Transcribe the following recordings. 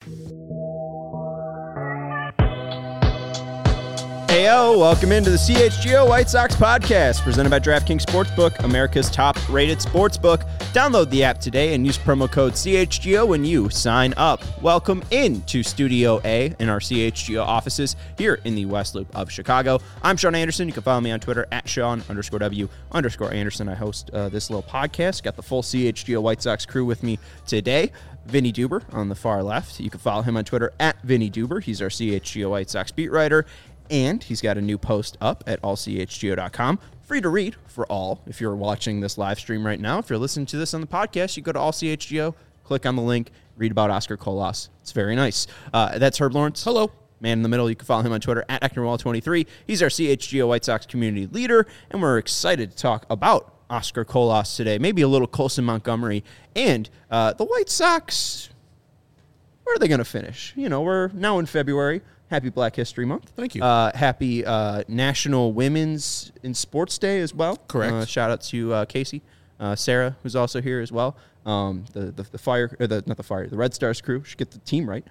Heyo, welcome into the CHGO White Sox podcast, presented by DraftKings Sportsbook, America's top-rated sportsbook. Download the app today and use promo code CHGO when you sign up. Welcome into Studio A in our CHGO offices here in the West Loop of Chicago. I'm Sean Anderson. You can follow me on Twitter at Sean_W_Anderson. I host this little podcast. Got the full CHGO White Sox crew with me today. Vinny Duber on the far left. You can follow him on Twitter at Vinny Duber. He's our CHGO White Sox beat writer. And he's got a new post up at allchgo.com. Free to read for all. If you're watching this live stream right now, if you're listening to this on the podcast, you go to allchgo, click on the link, read about Oscar Colas. It's very nice. That's Herb Lawrence. Hello. Man in the middle. You can follow him on Twitter at Ecknerwall23. He's our CHGO White Sox community leader, and we're excited to talk about Oscar Colas today. Maybe a little Colson Montgomery. And the White Sox, where are they going to finish? You know, we're now in February. Happy Black History Month. Thank you. Happy National Women's in Sports Day as well. Correct. Shout out to Casey, Sarah, who's also here as well. The Red Stars crew should get the team right.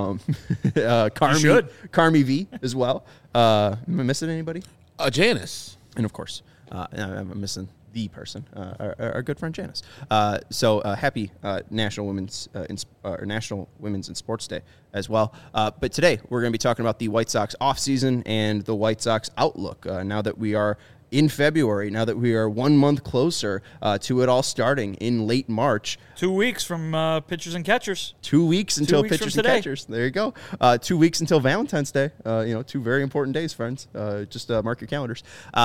Carmi V as well. Am I missing anybody? Janice. And of course, I'm missing the person, our good friend Janice. Happy National Women's National Women's in Sports Day as well. But today we're going to be talking about the White Sox offseason and the White Sox outlook. Now that we are in February, now that we are 1 month closer to it all starting in late March. 2 weeks from pitchers and catchers. 2 weeks until pitchers and catchers. There you go. 2 weeks until Valentine's Day. Two very important days, friends. Just mark your calendars.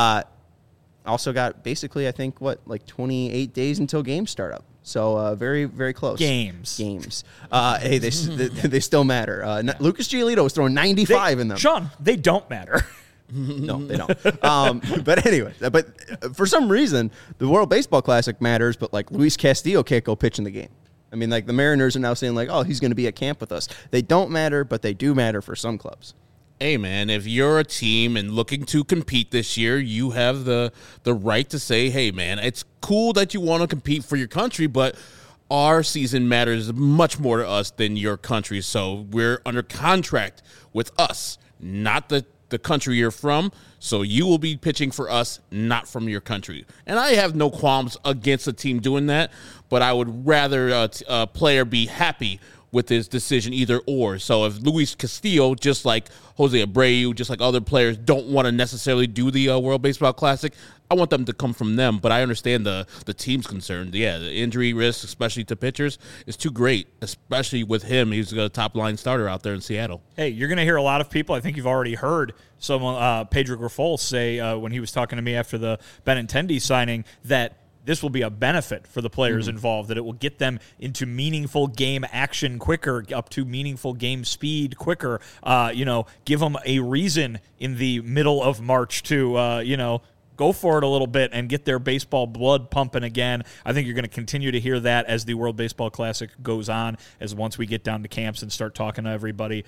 Also got basically, I think, 28 days until games start up. So very, very close. Games. Hey, they still matter. Lucas Giolito was throwing 95 in them. Sean, they don't matter. No, they don't. But anyway, for some reason, the World Baseball Classic matters, but Luis Castillo can't go pitch in the game. I mean, the Mariners are now saying he's going to be at camp with us. They don't matter, but they do matter for some clubs. Hey, man, if you're a team and looking to compete this year, you have the right to say, hey, man, it's cool that you want to compete for your country, but our season matters much more to us than your country. So we're under contract with us, not the country you're from. So you will be pitching for us, not from your country. And I have no qualms against a team doing that, but I would rather a player be happy with his decision, either or. So if Luis Castillo, just like Jose Abreu, just like other players, don't want to necessarily do the World Baseball Classic, I want them to come from them. But I understand the team's concerned. Yeah, the injury risk, especially to pitchers, is too great, especially with him. He's a top-line starter out there in Seattle. Hey, you're going to hear a lot of people. I think you've already heard someone, Pedro Grifol, say when he was talking to me after the Benintendi signing that this will be a benefit for the players involved, that it will get them into meaningful game action quicker, up to meaningful game speed quicker, give them a reason in the middle of March to, go for it a little bit and get their baseball blood pumping again. I think you're going to continue to hear that as the World Baseball Classic goes on, as once we get down to camps and start talking to everybody.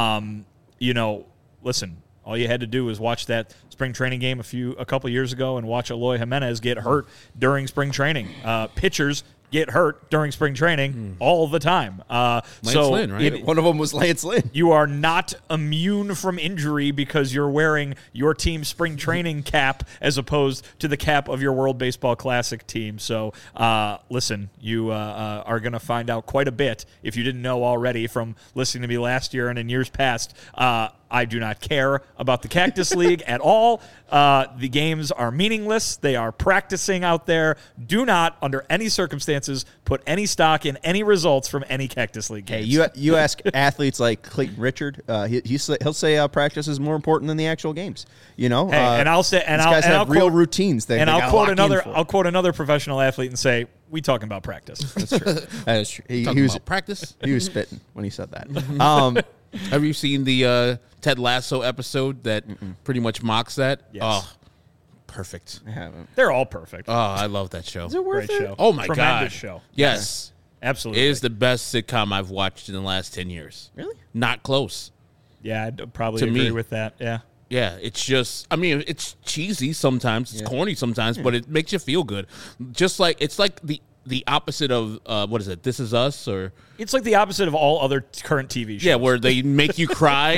Listen, all you had to do was watch that spring training game a couple years ago and watch Eloy Jimenez get hurt during spring training. Pitchers get hurt during spring training all the time. Lance Lynn, right? One of them was Lance Lynn. You are not immune from injury because you're wearing your team's spring training cap as opposed to the cap of your World Baseball Classic team. So, listen, you are going to find out quite a bit, if you didn't know already from listening to me last year and in years past. I do not care about the Cactus League at all. The games are meaningless. They are practicing out there. Do not, under any circumstances, put any stock in any results from any Cactus League games. Hey, you ask athletes like Clayton Richard, he'll say practice is more important than the actual games. Hey, and I'll say, and these guys have real routines. I'll quote another professional athlete and say, "We talking about practice." That's true. That is true. He was about practice. He was spitting when he said that. Have you seen the Ted Lasso episode that pretty much mocks that? Yes. Oh, perfect. I haven't. They're all perfect. Oh, I love that show. Is it worth Great it? show. Oh, my Tremendous God. show. Yes. Absolutely. It is the best sitcom I've watched in the last 10 years. Really? Not close. Yeah, I'd probably To agree me. with that. Yeah. Yeah, it's just, it's cheesy sometimes, it's corny sometimes, but it makes you feel good. Just like, it's like the the opposite of what is it? This Is Us, or It's like the opposite of all other current TV shows. yeah, where they make you cry.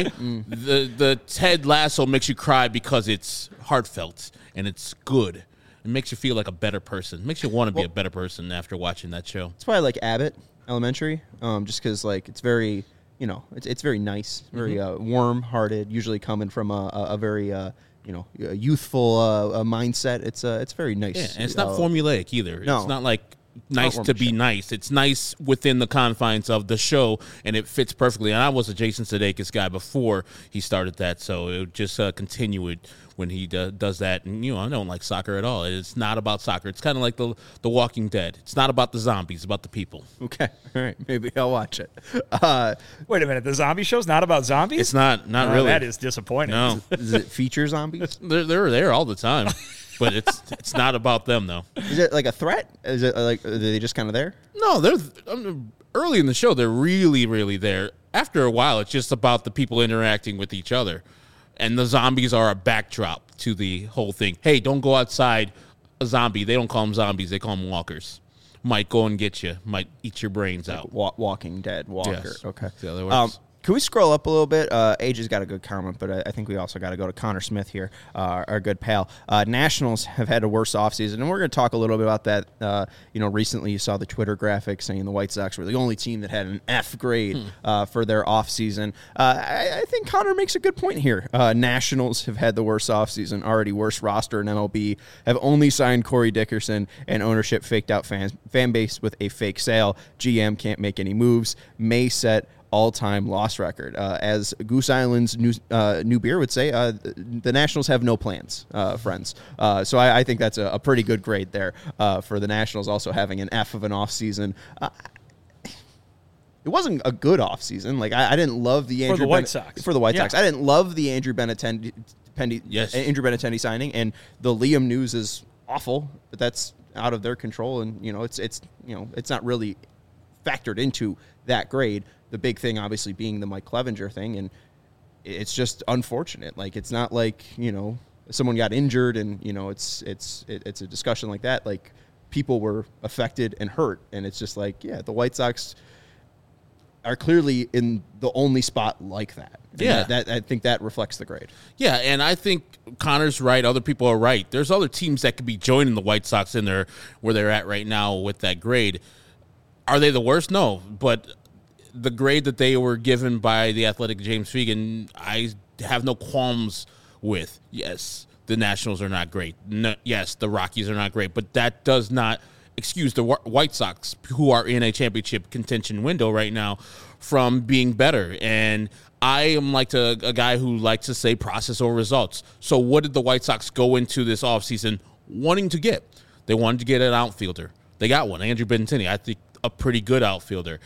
The Ted Lasso makes you cry because it's heartfelt and it's good. It makes you feel like a better person. It makes you want to be a better person after watching that show. That's why I like Abbott Elementary, just because like it's very, it's very nice, very warm-hearted. Usually coming from a very a youthful mindset. It's very nice. Yeah, and it's not formulaic either. No. It's not like nice to be nice. It's nice within the confines of the show, and it fits perfectly. And I was a Jason Sudeikis guy before he started that, so it would just continue it when he does that. And, I don't like soccer at all. It's not about soccer. It's kind of like the Walking Dead. It's not about the zombies. It's about the people. Okay, all right, maybe I'll watch it. Wait a minute, the zombie show's not about zombies? It's not really. That is disappointing. No. Does it feature zombies? They're there all the time, but it's not about them, though. Is it like a threat? Is it like are they just kind of there? No, they're early in the show. They're really, really there. After a while, it's just about the people interacting with each other, and the zombies are a backdrop to the whole thing. Hey, don't go outside. A zombie. They don't call them zombies. They call them walkers. Might go and get you. Might eat your brains out. Walking Dead walker. Yes. Okay. See how that works? Can we scroll up a little bit? AJ's got a good comment, but I think we also got to go to Connor Smith here, our good pal. Nationals have had a worse offseason, and we're going to talk a little bit about that. Recently you saw the Twitter graphic saying the White Sox were the only team that had an F grade for their offseason. I think Connor makes a good point here. Nationals have had the worst offseason, already worst roster in MLB, have only signed Corey Dickerson, and ownership faked out fan base with a fake sale. GM can't make any moves, may set all-time loss record. As Goose Island's new beer would say, the Nationals have no plans, friends. So I think that's a pretty good grade there for the Nationals also having an F of an offseason. It wasn't a good offseason. Like, I didn't love the Andrew White Sox. For the White Sox. I didn't love the Andrew Benintendi signing, and the Liam news is awful, but that's out of their control, and it's not really factored into that grade. The big thing, obviously, being the Mike Clevenger thing, and it's just unfortunate. Like, it's not like someone got injured, and it's a discussion like that. Like, people were affected and hurt, and it's just like, the White Sox are clearly in the only spot like that. And that I think that reflects the grade. Yeah, and I think Connor's right. Other people are right. There's other teams that could be joining the White Sox in there where they're at right now with that grade. Are they the worst? No, but the grade that they were given by the Athletic James Fegan, I have no qualms with. Yes, the Nationals are not great. No, yes, the Rockies are not great, but that does not excuse the White Sox, who are in a championship contention window right now, from being better. And I am like a guy who likes to say process over results. So what did the White Sox go into this offseason wanting to get? They wanted to get an outfielder. They got one, Andrew Benintendi. I think a pretty good outfielder.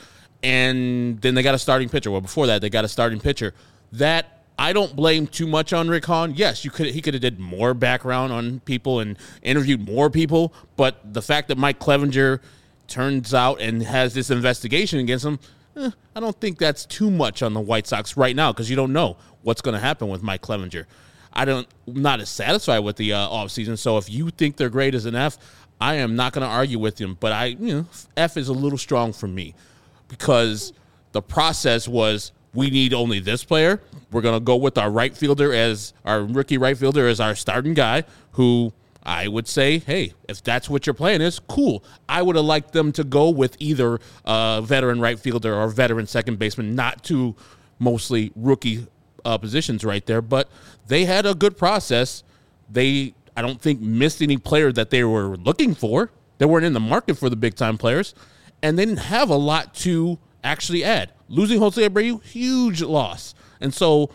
And then they got a starting pitcher. Well, before that, they got a starting pitcher. That I don't blame too much on Rick Hahn. Yes, he could have did more background on people and interviewed more people. But the fact that Mike Clevenger turns out and has this investigation against him, I don't think that's too much on the White Sox right now, because you don't know what's going to happen with Mike Clevenger. I'm not as satisfied with the offseason. So if you think their grade is an F, I am not going to argue with him. But F is a little strong for me, because the process was, we need only this player. We're going to go with our right fielder as our rookie right fielder as our starting guy, who I would say, hey, if that's what your plan is, cool. I would have liked them to go with either a veteran right fielder or veteran second baseman, not two mostly rookie positions right there. But they had a good process. I don't think missed any player that they were looking for. They weren't in the market for the big-time players, and they didn't have a lot to actually add. Losing Jose Abreu, huge loss. And so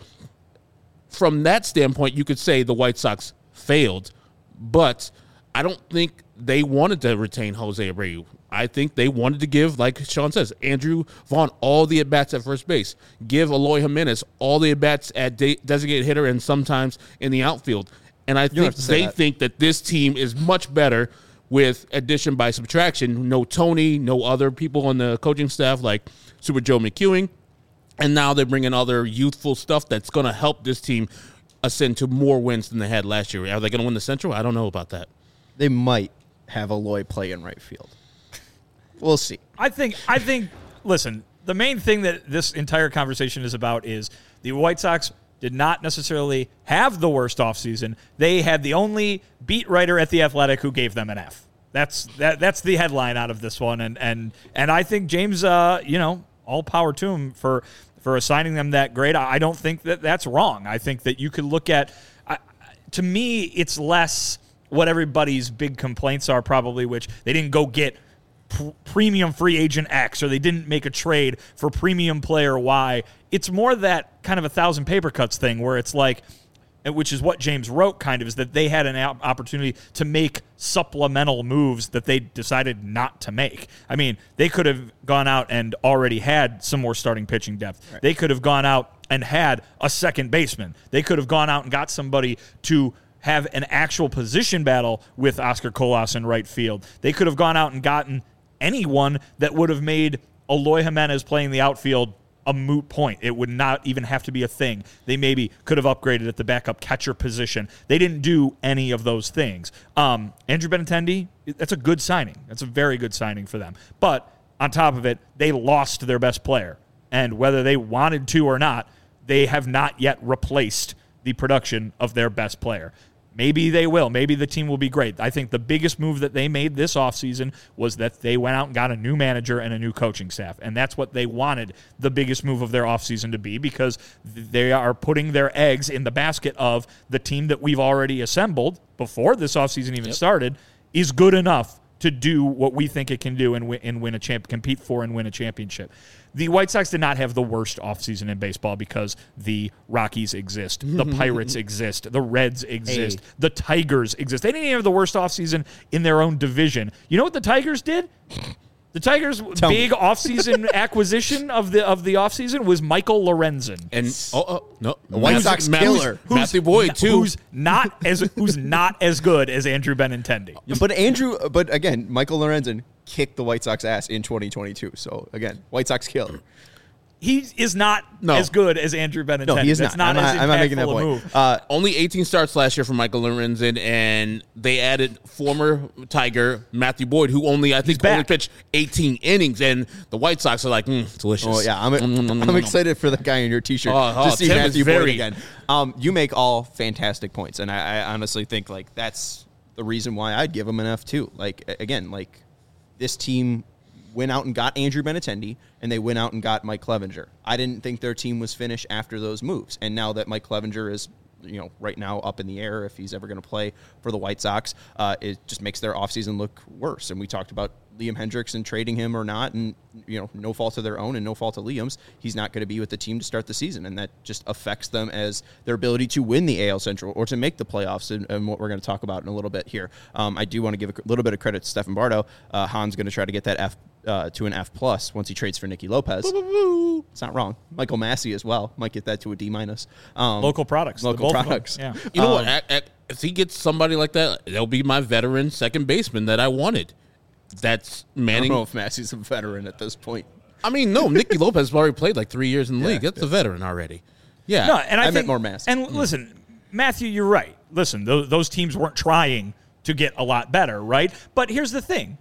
from that standpoint, you could say the White Sox failed, but I don't think they wanted to retain Jose Abreu. I think they wanted to give, like Sean says, Andrew Vaughn all the at-bats at first base, give Eloy Jimenez all the at-bats at designated hitter and sometimes in the outfield. And I think they think that this team is much better with addition by subtraction. No Tony, no other people on the coaching staff like Super Joe McEwing. And now they're bringing other youthful stuff that's going to help this team ascend to more wins than they had last year. Are they going to win the Central? I don't know about that. They might have Eloy play in right field. We'll see. I think. Listen, the main thing that this entire conversation is about is the White Sox did not necessarily have the worst offseason. They had the only beat writer at The Athletic who gave them an F. That's the headline out of this one, and I think James, all power to him for assigning them that grade. I don't think that that's wrong. I think that you could look at. To me, it's less what everybody's big complaints are probably, which they didn't go get premium free agent X, or they didn't make a trade for premium player Y. It's more that kind of 1,000 paper cuts thing where it's like, which is what James wrote kind of, is that they had an opportunity to make supplemental moves that they decided not to make. I mean, they could have gone out and already had some more starting pitching depth. Right. They could have gone out and had a second baseman. They could have gone out and got somebody to have an actual position battle with Oscar Colas in right field. They could have gone out and gotten anyone that would have made Eloy Jimenez playing the outfield a moot point. It would not even have to be a thing. They maybe could have upgraded at the backup catcher position. They didn't do any of those things. Andrew Benintendi, that's a good signing. That's a very good signing for them. But on top of it, they lost their best player. And whether they wanted to or not, they have not yet replaced the production of their best player. Maybe they will. Maybe the team will be great. I think the biggest move that they made this offseason was that they went out and got a new manager and a new coaching staff. And that's what they wanted the biggest move of their offseason to be, because they are putting their eggs in the basket of the team that we've already assembled before this offseason even started is good enough to do what we think it can do and win a compete for and win a championship. The White Sox did not have the worst offseason in baseball because the Rockies exist, the Pirates exist, the Reds exist, the Tigers exist. They didn't even have the worst offseason in their own division. You know what the Tigers did? The Tigers' big offseason acquisition of the offseason was Michael Lorenzen. And the White Sox killer. Matthew Boyd too. Who's not as good as Andrew Benintendi. But again, Michael Lorenzen kicked the White Sox ass in 2022. So again, White Sox killer. He is not as good as Andrew Benintendi. No, he is That's not. I'm not making that point. Move. Only 18 starts last year for Michael Lorenzen, and they added former Tiger Matthew Boyd, who only pitched 18 innings, and the White Sox are like, delicious. Oh yeah, I'm excited for the guy in your T-shirt to see Tim Matthew Boyd again. You make all fantastic points, and I honestly think like that's the reason why I'd give him an F too. Like again, like this team went out and got Andrew Benintendi, and they went out and got Mike Clevenger. I didn't think their team was finished after those moves. And now that Mike Clevenger is, right now up in the air if he's ever going to play for the White Sox, it just makes their offseason look worse. And we talked about Liam Hendriks and trading him or not, and no fault of their own and no fault of Liam's. He's not going to be with the team to start the season, and that just affects them as their ability to win the AL Central or to make the playoffs, and what we're going to talk about in a little bit here. I do want to give a little bit of credit to Stephen Bardo. Han's going to try to get that F to an F+ once he trades for Nicky Lopez. It's not wrong. Michael Massey as well might get that to a D-. Local products. Yeah. You know what? If he gets somebody like that, that'll be my veteran second baseman that I wanted. That's Manning. I don't know if Massey's a veteran at this point. I mean, no, Nicky Lopez has already played like 3 years in the league. That's a veteran already. Yeah. No, and I think meant more Massey. And listen, Matthew, you're right. Listen, those teams weren't trying to get a lot better, right? But here's the thing.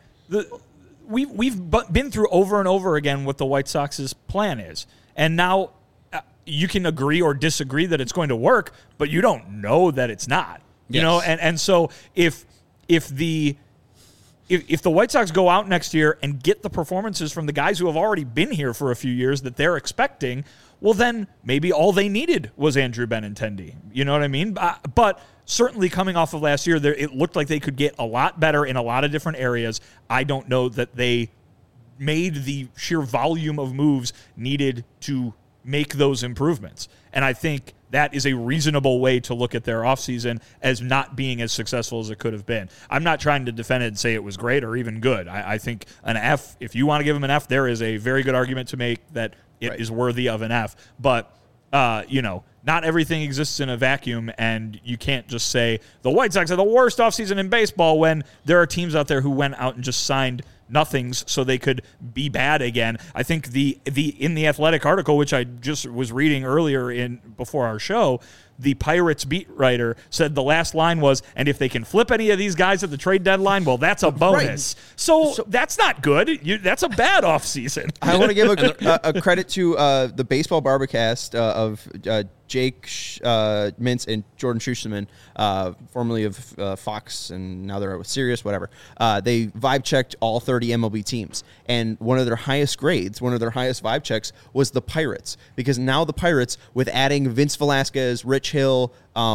We've been through over and over again what the White Sox's plan is. And now you can agree or disagree that it's going to work, but you don't know that it's not. You know, and so if the White Sox go out next year and get the performances from the guys who have already been here for a few years that they're expecting, well, then maybe all they needed was Andrew Benintendi. You know what I mean? But certainly coming off of last year, it looked like they could get a lot better in a lot of different areas. I don't know that they made the sheer volume of moves needed to make those improvements. And I think that is a reasonable way to look at their offseason as not being as successful as it could have been. I'm not trying to defend it and say it was great or even good. I think an F, if you want to give them an F, there is a very good argument to make that it is worthy of an F. But, not everything exists in a vacuum, and you can't just say the White Sox are the worst offseason in baseball when there are teams out there who went out and just signed nothings so they could be bad again. I think in the Athletic article, which I just was reading earlier before our show, the Pirates beat writer said the last line was, and if they can flip any of these guys at the trade deadline, well, that's a bonus. Right. So that's not good. That's a bad offseason. I want to give a credit to the Baseball Barbacast of Jake Mintz and Jordan Schusterman, formerly of Fox, and now they're with Sirius, whatever. They vibe checked all 30 MLB teams, and one of their highest grades, one of their highest vibe checks was the Pirates, because now the Pirates, with adding Vince Velasquez, Rich Hill,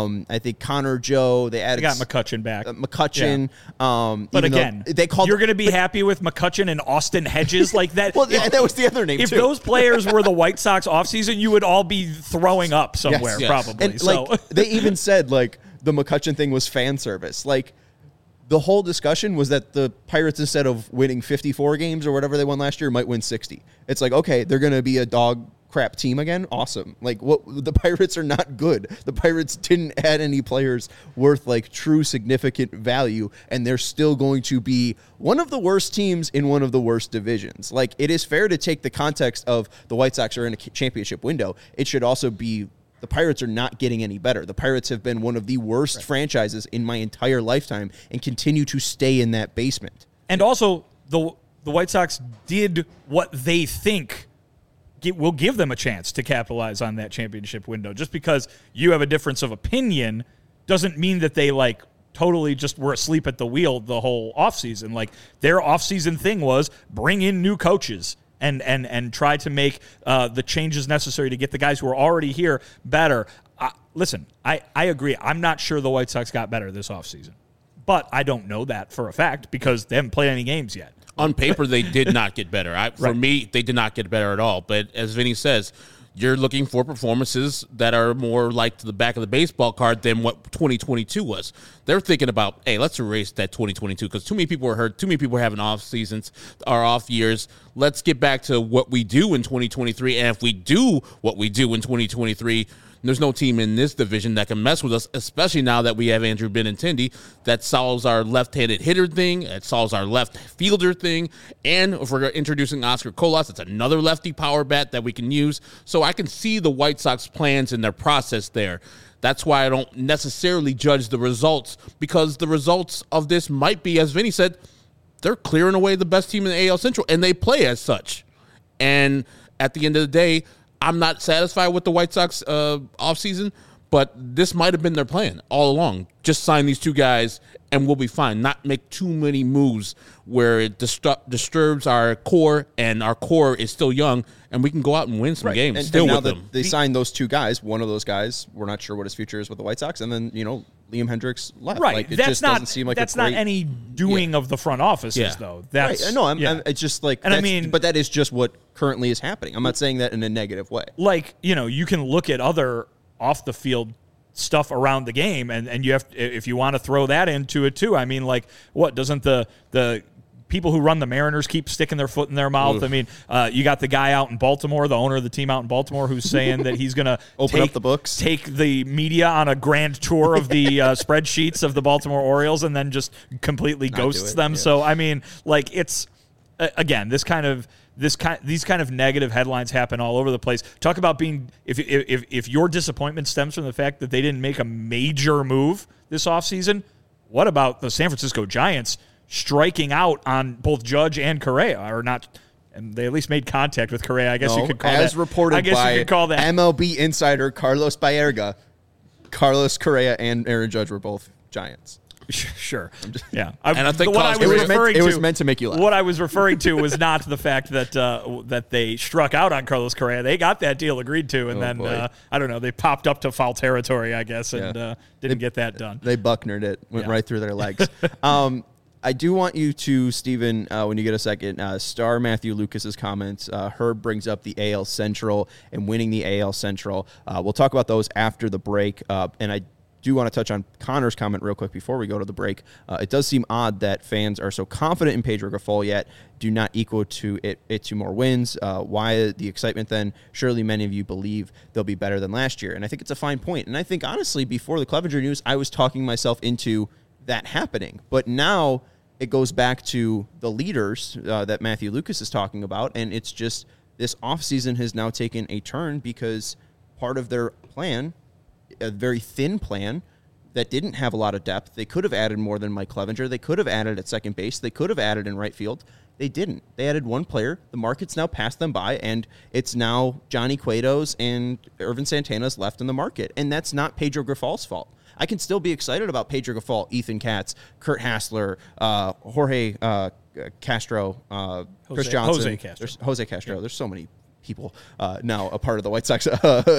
I think Connor Joe, they got McCutchen back. McCutchen. Yeah. But again, you're going to be happy with McCutchen and Austin Hedges like that. Well, that was the other name, if too. If those players were the White Sox offseason, you would all be throwing up somewhere, yes. probably. And, they even said, the McCutchen thing was fan service. The whole discussion was that the Pirates, instead of winning 54 games or whatever they won last year, might win 60. It's okay, they're going to be a dog crap team again. Awesome. The Pirates are not good. The Pirates didn't add any players worth true significant value, and they're still going to be one of the worst teams in one of the worst divisions. It is fair to take the context of the White Sox are in a championship window. It should also be the Pirates are not getting any better. The Pirates have been one of the worst franchises in my entire lifetime and continue to stay in that basement. And also, the White Sox did what they think will give them a chance to capitalize on that championship window. Just because you have a difference of opinion doesn't mean that they totally just were asleep at the wheel the whole offseason. Their offseason thing was bring in new coaches and try to make the changes necessary to get the guys who are already here better. Listen, I agree. I'm not sure the White Sox got better this offseason, but I don't know that for a fact because they haven't played any games yet. On paper, they did not get better. For me, they did not get better at all. But as Vinny says, you're looking for performances that are more like to the back of the baseball card than what 2022 was. They're thinking about, hey, let's erase that 2022 because too many people were hurt, too many people were having off seasons or off years. Let's get back to what we do in 2023. And if we do what we do in 2023, there's no team in this division that can mess with us, especially now that we have Andrew Benintendi. That solves our left-handed hitter thing. It solves our left fielder thing. And if we're introducing Oscar Colas, it's another lefty power bat that we can use. So I can see the White Sox plans and their process there. That's why I don't necessarily judge the results, because the results of this might be, as Vinny said, they're clearing away the best team in the AL Central, and they play as such. And at the end of the day, I'm not satisfied with the White Sox offseason, but this might have been their plan all along. Just sign these two guys and we'll be fine. Not make too many moves where it disturbs our core, and our core is still young, and we can go out and win some games still with them. They signed those two guys. One of those guys, we're not sure what his future is with the White Sox, and then, Liam Hendricks left. Right. Doesn't seem like that's not any doing of the front offices, though. That's right. No, it's just but that is just what currently is happening. I'm not saying that in a negative way. You can look at other off the field stuff around the game, and you have, if you want to throw that into it too. I mean, what doesn't the people who run the Mariners keep sticking their foot in their mouth? Oof. I mean, you got the guy out in Baltimore, the owner of the team out in Baltimore, who's saying that he's going to open up the books, take the media on a grand tour of the spreadsheets of the Baltimore Orioles, and then just completely ghosts them. Yeah. So I mean, it's again, these kind of negative headlines happen all over the place. Talk about being, if your disappointment stems from the fact that they didn't make a major move this offseason, what about the San Francisco Giants striking out on both Judge and Correa, or not? And they at least made contact with Correa. I guess you could call that. As reported by MLB insider Carlos Baerga, Carlos Correa and Aaron Judge were both Giants. Sure. And I think it was meant to make you laugh. What I was referring to was not the fact that that they struck out on Carlos Correa. They got that deal agreed to, and I don't know, they popped up to foul territory, I guess, and didn't get that done. They Bucknered it, went right through their legs. I do want you to, Stephen, when you get a second, star Matthew Lucas's comments. Herb brings up the AL Central and winning the AL Central. We'll talk about those after the break, and I do want to touch on Connor's comment real quick before we go to the break. It does seem odd that fans are so confident in Pedro Grifol yet do not equal to it to more wins. Why the excitement then? Surely many of you believe they'll be better than last year. And I think it's a fine point. And I think, honestly, before the Clevenger news, I was talking myself into that happening. But now it goes back to the leaders that Matthew Lucas is talking about. And it's just this offseason has now taken a turn because part of their plan a very thin plan that didn't have a lot of depth. They could have added more than Mike Clevenger. They could have added at second base. They could have added in right field. They didn't. They added one player. The market's now passed them by, and it's now Johnny Cueto's and Irvin Santana's left in the market. And that's not Pedro Grifal's fault. I can still be excited about Pedro Grifal, Ethan Katz, Kurt Hassler, Jorge Castro, Chris Johnson. Jose Castro. Yeah. There's so many people now a part of the White Sox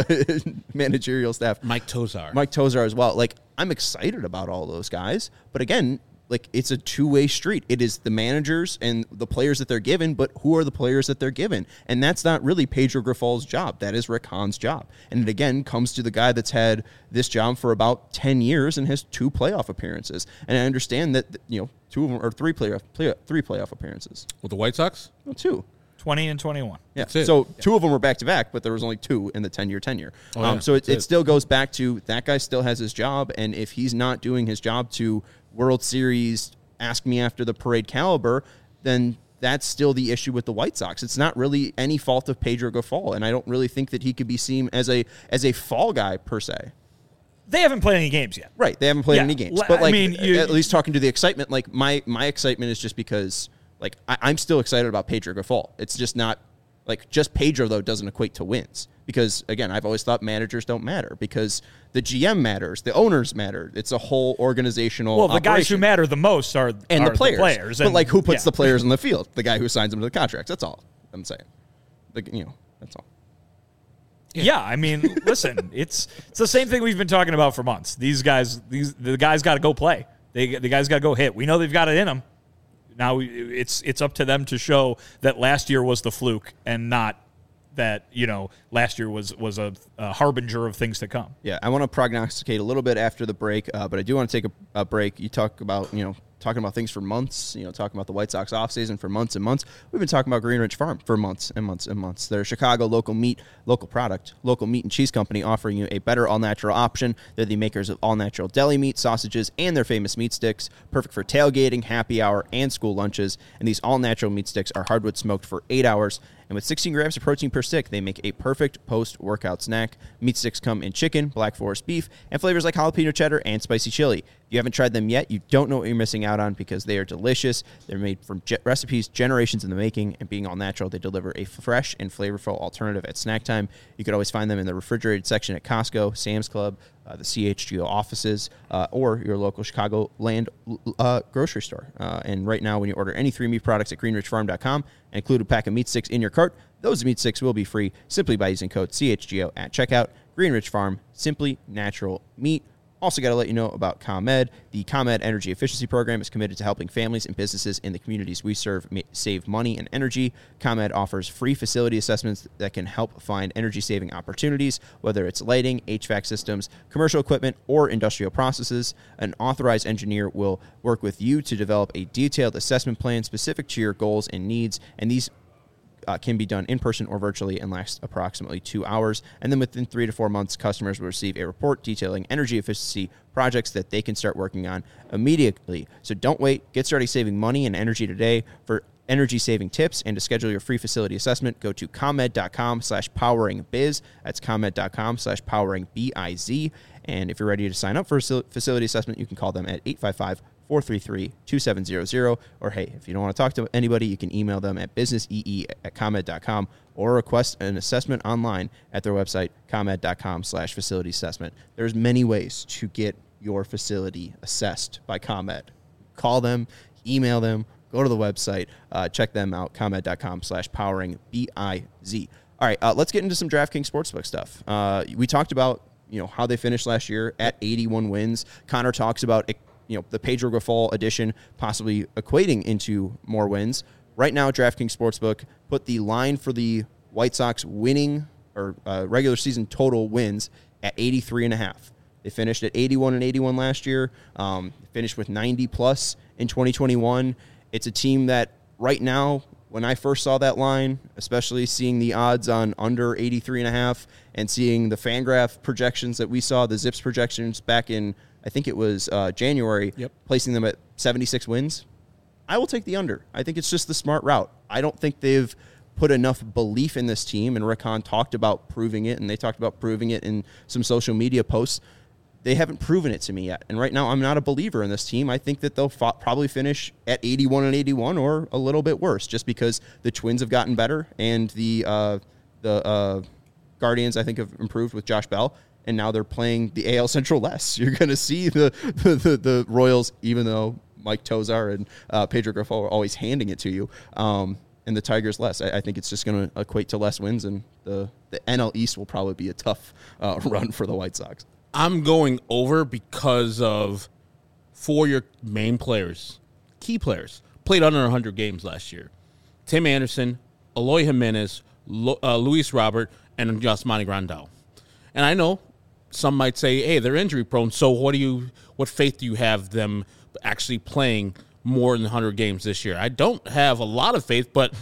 managerial staff. Mike Tozar as well. Like, I'm excited about all those guys. But again, like, it's a two-way street. It is the managers and the players that they're given, but who are the players that they're given? And that's not really Pedro Grifal's job. That is Rick Hahn's job. And it, again, comes to the guy that's had this job for about 10 years and has 2 playoff appearances. And I understand that, 2 of them are 3 playoff appearances. With the White Sox? Well, 2. 20 and 21. Yeah. So 2 of them were back-to-back, but there was only 2 in the 10-year tenure. So it still goes back to that guy still has his job, and if he's not doing his job to World Series, ask me after the parade caliber, then that's still the issue with the White Sox. It's not really any fault of Pedro Grifal, and I don't really think that he could be seen as a fall guy per se. They haven't played any games yet. Right. They haven't played any games. But, at least talking to the excitement, like, my excitement is just because, like, I'm still excited about Pedro Grifal. It's just not, like, just Pedro, though, doesn't equate to wins. Because, again, I've always thought managers don't matter because the GM matters, the owners matter. It's a whole organizational Well, the guys who matter the most are the players. But, like, who puts the players on the field? The guy who signs them to the contracts. That's all I'm saying. That's all. Yeah, I mean, listen, it's the same thing we've been talking about for months. The guys got to go play. The guys got to go hit. We know they've got it in them. Now it's up to them to show that last year was the fluke and not that, last year was a harbinger of things to come. Yeah, I want to prognosticate a little bit after the break, but I do want to take a break. You talk about, talking about things for months, talking about the White Sox offseason for months and months. We've been talking about Green Ridge Farm for months and months and months. They're a Chicago local meat, local product, local meat and cheese company offering you a better all-natural option. They're the makers of all-natural deli meat, sausages, and their famous meat sticks, perfect for tailgating, happy hour, and school lunches. And these all-natural meat sticks are hardwood smoked for 8 hours. And with 16 grams of protein per stick, they make a perfect post-workout snack. Meat sticks come in chicken, Black Forest beef, and flavors like jalapeno cheddar and spicy chili. If you haven't tried them yet, you don't know what you're missing out on because they are delicious. They're made from recipes generations in the making, and being all natural, they deliver a fresh and flavorful alternative at snack time. You could always find them in the refrigerated section at Costco, Sam's Club, the CHGO offices, or your local Chicagoland grocery store. And right now, when you order any 3 meat products at greenridgefarm.com and include a pack of meat sticks in your cart, those meat sticks will be free simply by using code CHGO at checkout. Green Ridge Farm, simply natural meat. Also got to let you know about ComEd. The ComEd Energy Efficiency Program is committed to helping families and businesses in the communities we serve save money and energy. ComEd offers free facility assessments that can help find energy-saving opportunities, whether it's lighting, HVAC systems, commercial equipment, or industrial processes. An authorized engineer will work with you to develop a detailed assessment plan specific to your goals and needs, and these can be done in person or virtually and last approximately 2 hours. And then within 3 to 4 months, customers will receive a report detailing energy efficiency projects that they can start working on immediately. So don't wait. Get started saving money and energy today. For energy saving tips and to schedule your free facility assessment, go to ComEd.com/poweringbiz. That's ComEd.com/poweringbiz. And if you're ready to sign up for a facility assessment, you can call them at 855-433-2700. Or, hey, if you don't want to talk to anybody, you can email them at businessee@comed.com or request an assessment online at their website, comed.com/facility assessment. There's many ways to get your facility assessed by ComEd. Call them, email them, go to the website, check them out, comed.com/poweringbiz. All right, let's get into some DraftKings Sportsbook stuff. We talked about how they finished last year at 81 wins. Connor talks about the Pedro Grifal addition possibly equating into more wins. Right now, DraftKings Sportsbook put the line for the White Sox winning or regular season total wins at 83.5. They finished at 81 last year, finished with 90+ in 2021. It's a team that right now, when I first saw that line, especially seeing the odds on under 83.5 and seeing the Fangraph projections that we saw, the Zips projections back in, I think it was January, placing them at 76 wins, I will take the under. I think it's just the smart route. I don't think they've put enough belief in this team, and Rick Hahn talked about proving it, and they talked about proving it in some social media posts. They haven't proven it to me yet. And right now, I'm not a believer in this team. I think that they'll probably finish at 81-81 or a little bit worse, just because the Twins have gotten better and the Guardians, I think, have improved with Josh Bell. And now they're playing the AL Central less. You're going to see the Royals, even though Mike Tosar and Pedro Grifol are always handing it to you, and the Tigers less. I think it's just going to equate to less wins, and the NL East will probably be a tough run for the White Sox. I'm going over because of 4 your main players, key players, played under 100 games last year. Tim Anderson, Eloy Jimenez, Luis Robert, and Yasmani Grandal. And I know some might say, hey, they're injury prone, so what faith do you have them actually playing more than 100 games this year? I don't have a lot of faith, but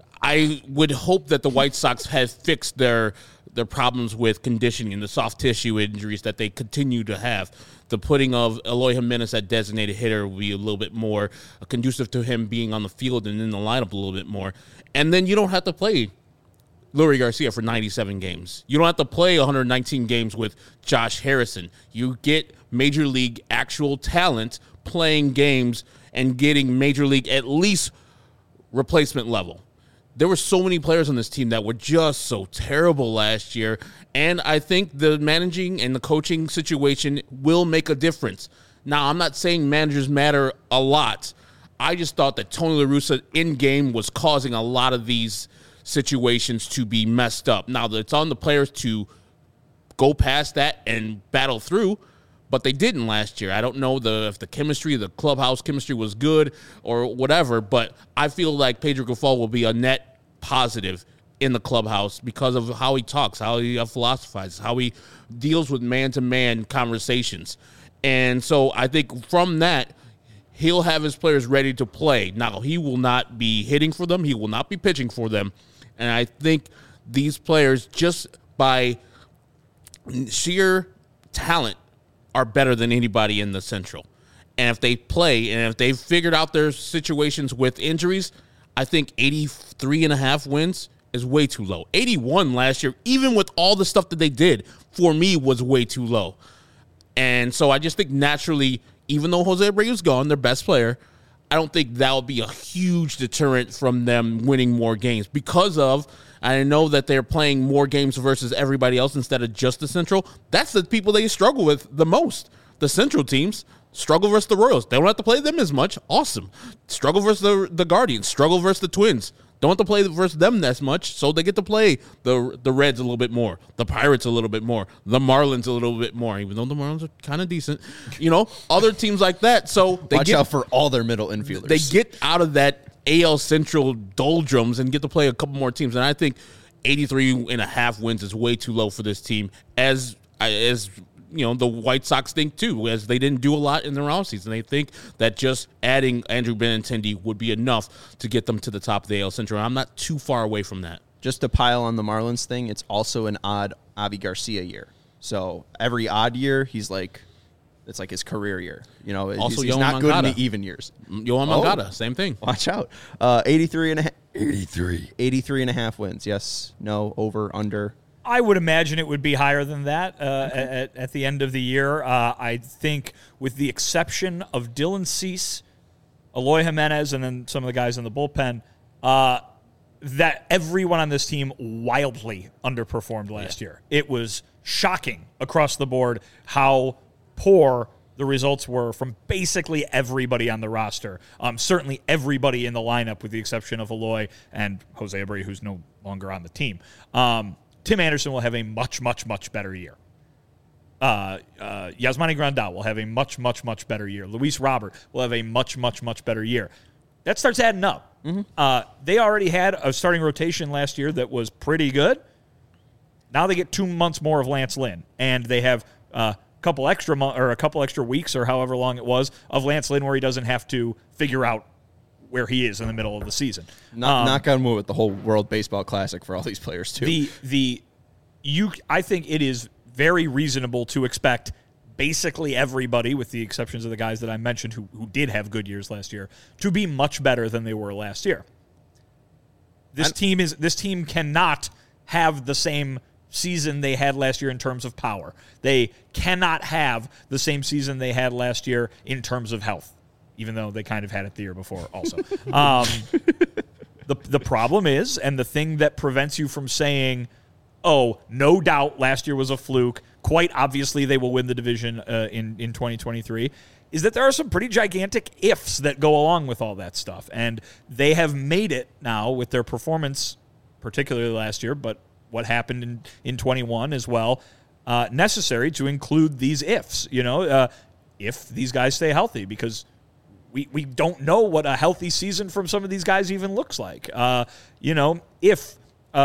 I would hope that the White Sox have fixed their problems with conditioning and the soft tissue injuries that they continue to have. The putting of Eloy Jimenez at designated hitter will be a little bit more conducive to him being on the field and in the lineup a little bit more. And then you don't have to play Leury Garcia for 97 games. You don't have to play 119 games with Josh Harrison. You get Major League actual talent playing games and getting Major League at least replacement level. There were so many players on this team that were just so terrible last year, and I think the managing and the coaching situation will make a difference. Now, I'm not saying managers matter a lot. I just thought that Tony La Russa in-game was causing a lot of these situations to be messed up. Now, it's on the players to go past that and battle through, but they didn't last year. I don't know if the chemistry, the clubhouse chemistry was good or whatever, but I feel like Pedro Grifol will be a net positive in the clubhouse because of how he talks, how he philosophizes, how he deals with man-to-man conversations. And so I think from that, he'll have his players ready to play. Now, he will not be hitting for them. He will not be pitching for them. And I think these players, just by sheer talent, are better than anybody in the Central. And if they play and if they've figured out their situations with injuries, I think 83.5 wins is way too low. 81 last year, even with all the stuff that they did, for me was way too low. And so I just think naturally, even though Jose Abreu's gone, their best player, I don't think that will be a huge deterrent from them winning more games because of, I know that they're playing more games versus everybody else instead of just the Central. That's the people they struggle with the most. The Central teams struggle versus the Royals. They don't have to play them as much. Awesome. Struggle versus the Guardians. Struggle versus the Twins. Don't have to play versus them as much, so they get to play the Reds a little bit more, the Pirates a little bit more, the Marlins a little bit more, even though the Marlins are kind of decent. Other teams like that. So they Watch out for all their middle infielders. They get out of that AL Central doldrums and get to play a couple more teams. And I think 83.5 wins is way too low for this team, as the White Sox think too, as they didn't do a lot in their offseason. They think that just adding Andrew Benintendi would be enough to get them to the top of the AL Central. I'm not too far away from that. Just to pile on the Marlins thing, it's also an odd Avi Garcia year. So every odd year, it's like his career year. Also, he's not good in the even years. Yohan Moncada, same thing. Watch out. 83.5 wins. Yes, no, over, under. I would imagine it would be higher than that at the end of the year. I think with the exception of Dylan Cease, Eloy Jimenez, and then some of the guys in the bullpen, that everyone on this team wildly underperformed last year. It was shocking across the board how poor the results were from basically everybody on the roster. Certainly everybody in the lineup with the exception of Eloy and Jose Abreu, who's no longer on the team. Tim Anderson will have a much, much, much better year. Yasmani Grandal will have a much, much, much better year. Luis Robert will have a much, much, much better year. That starts adding up. Mm-hmm. They already had a starting rotation last year that was pretty good. Now they get 2 months more of Lance Lynn, and they have a couple extra weeks or however long it was of Lance Lynn where he doesn't have to figure out where he is in the middle of the season. Knock on wood with the whole World Baseball Classic for all these players too. I think it is very reasonable to expect basically everybody, with the exceptions of the guys that I mentioned who did have good years last year, to be much better than they were last year. This team cannot have the same season they had last year in terms of power. They cannot have the same season they had last year in terms of health, even though they kind of had it the year before also. The problem is, and the thing that prevents you from saying, oh, no doubt last year was a fluke, quite obviously they will win the division in 2023, is that there are some pretty gigantic ifs that go along with all that stuff. And they have made it now with their performance, particularly last year, but what happened in 21 as well, necessary to include these ifs, if these guys stay healthy, because we don't know what a healthy season from some of these guys even looks like. If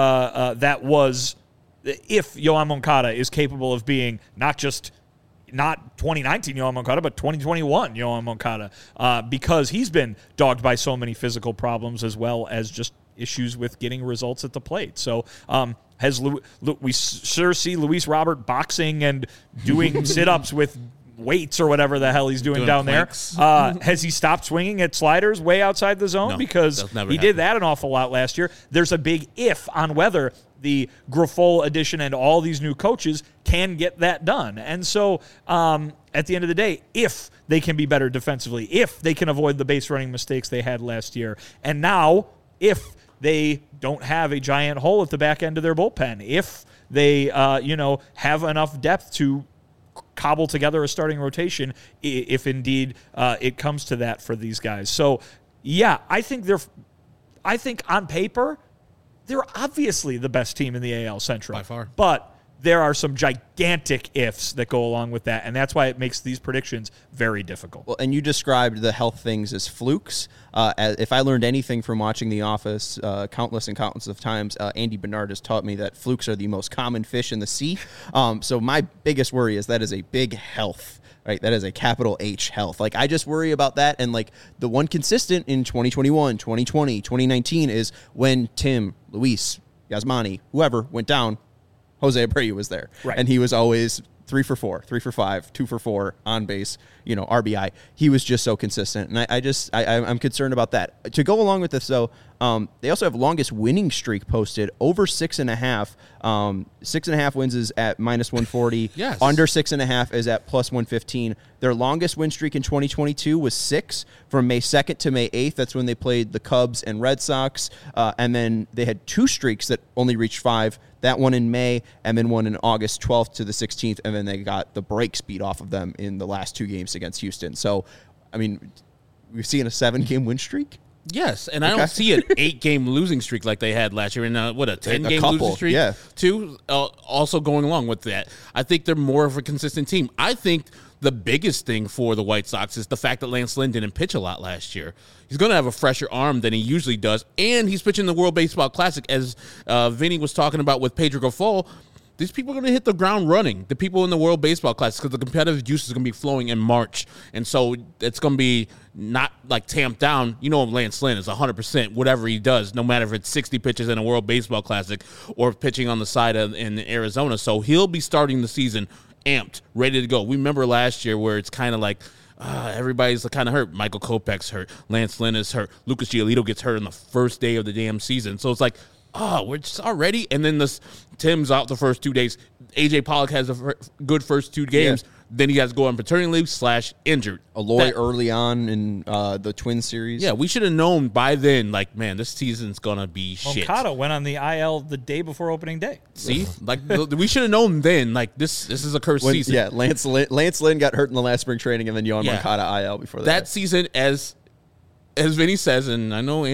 Yoán Moncada is capable of being not 2019 Yoán Moncada, but 2021 Yoán Moncada, because he's been dogged by so many physical problems as well as just issues with getting results at the plate. So we sure see Luis Robert boxing and doing sit-ups with weights or whatever the hell he's doing down planks there. Has he stopped swinging at sliders way outside the zone? No, because he did that an awful lot last year. There's a big if on whether the Grifol addition and all these new coaches can get that done. And so at the end of the day, if they can be better defensively, if they can avoid the base running mistakes they had last year, and now if they don't have a giant hole at the back end of their bullpen, if they have enough depth to cobble together a starting rotation, if indeed it comes to that for these guys. So yeah, I think on paper they're obviously the best team in the AL Central by far, but there are some gigantic ifs that go along with that, and that's why it makes these predictions very difficult. Well, and you described the health things as flukes. If I learned anything from watching The Office countless of times, Andy Bernard has taught me that flukes are the most common fish in the sea. So my biggest worry is that is a big health. Right, that is a capital H health. Like, I just worry about that. And like the one consistent in 2021, 2020, 2019 is when Tim, Luis, Yasmani, whoever went down, Jose Abreu was there. Right. And he was always 3 for 4, 3 for 5, 2 for 4 on base, RBI. He was just so consistent. And I'm concerned about that. To go along with this, though, they also have longest winning streak posted, over 6.5. 6.5 wins is at minus 140. Yes. Under 6.5 is at plus 115. Their longest win streak in 2022 was 6 from May 2nd to May 8th. That's when they played the Cubs and Red Sox. And then they had 2 streaks that only reached 5. That one in May, and then one in August 12th to the 16th, and then they got the brakes beat off of them in the last 2 games against Houston. So, I mean, we've seen a 7-game win streak? Yes, and I don't see an 8-game losing streak like they had last year, and a 10-game losing streak, yeah. too. Also going along with that, I think they're more of a consistent team. I think the biggest thing for the White Sox is the fact that Lance Lynn didn't pitch a lot last year. He's going to have a fresher arm than he usually does, and he's pitching the World Baseball Classic, as Vinny was talking about with Pedro Grifol. These people are going to hit the ground running, the people in the World Baseball Classic, because the competitive juice is going to be flowing in March. And so it's going to be not like tamped down. Lance Lynn is 100% whatever he does, no matter if it's 60 pitches in a World Baseball Classic or pitching on the side in Arizona. So he'll be starting the season amped, ready to go. We remember last year where it's kind of like everybody's kind of hurt. Michael Kopech's hurt. Lance Lynn is hurt. Lucas Giolito gets hurt on the first day of the damn season. So it's like, we're just already. And then Tim's out the first 2 days. AJ Pollock has a good first 2 games. Yeah. Then he has to go on paternity leave / injured. Aloy early on in the Twins series. Yeah, we should have known by then, like, man, this season's going to be shit. Moncada went on the IL the day before opening day. See? Like, we should have known then, like, this is a cursed season. Yeah, Lance Lynn got hurt in the last spring training, and then Yoán Moncada IL before that. That season, as Vinny says, and I know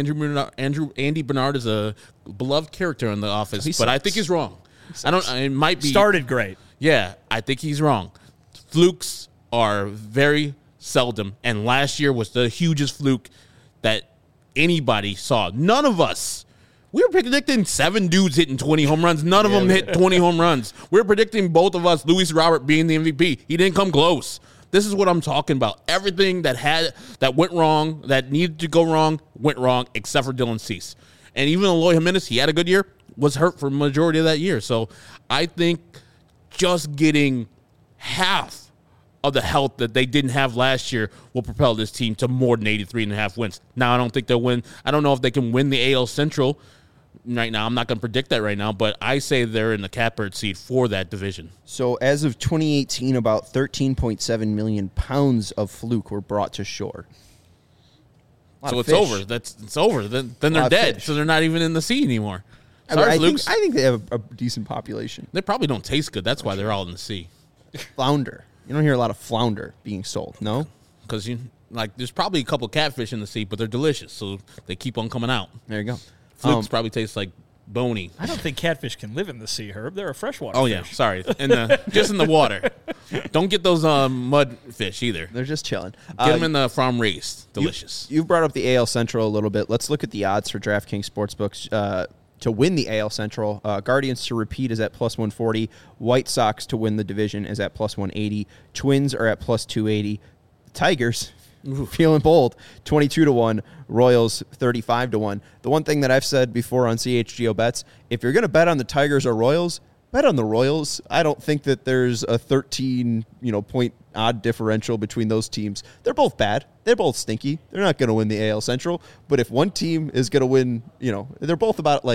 Andy Bernard is a beloved character in The Office, but I think he's wrong. It might be started great. Yeah, I think he's wrong. Flukes are very seldom, and last year was the hugest fluke that anybody saw. None of us. We were predicting 7 dudes hitting 20 home runs. None of them hit 20 home runs. We were predicting both of us, Luis Robert being the MVP. He didn't come close. This is what I'm talking about. Everything that went wrong, that needed to go wrong, went wrong, except for Dylan Cease. And even Eloy Jimenez, he had a good year, was hurt for the majority of that year. So I think just getting half of the health that they didn't have last year will propel this team to more than 83.5 wins. Now, I don't think they'll win. I don't know if they can win the AL Central right now. I'm not going to predict that right now, but I say they're in the catbird seat for that division. So as of 2018, about 13.7 million pounds of fluke were brought to shore. So it's over. It's over. Then they're dead. So they're not even in the sea anymore. Sorry, I flukes. think they have a decent population. They probably don't taste good. That's why they're all in the sea. Flounder. You don't hear a lot of flounder being sold, no? Because there's probably a couple catfish in the sea, but they're delicious, so they keep on coming out. There you go. Flukes probably taste like bony. I don't think catfish can live in the sea, Herb. They're a freshwater Oh, fish. yeah. Sorry. Just in the water. Don't get those mud fish either. They're just chilling. Get them in the farm raised. Delicious. You've brought up the AL Central a little bit. Let's look at the odds for DraftKings Sportsbooks to win the AL Central. Guardians to repeat is at plus 140. White Sox to win the division is at plus 180. Twins are at plus 280. Tigers, feeling bold, 22-1. Royals, 35-1. The one thing that I've said before on CHGO Bets, if you're going to bet on the Tigers or Royals, bet on the Royals. I don't think that there's a 13 point odd differential between those teams. They're both bad. They're both stinky. They're not going to win the AL Central. But if one team is going to win, they're both about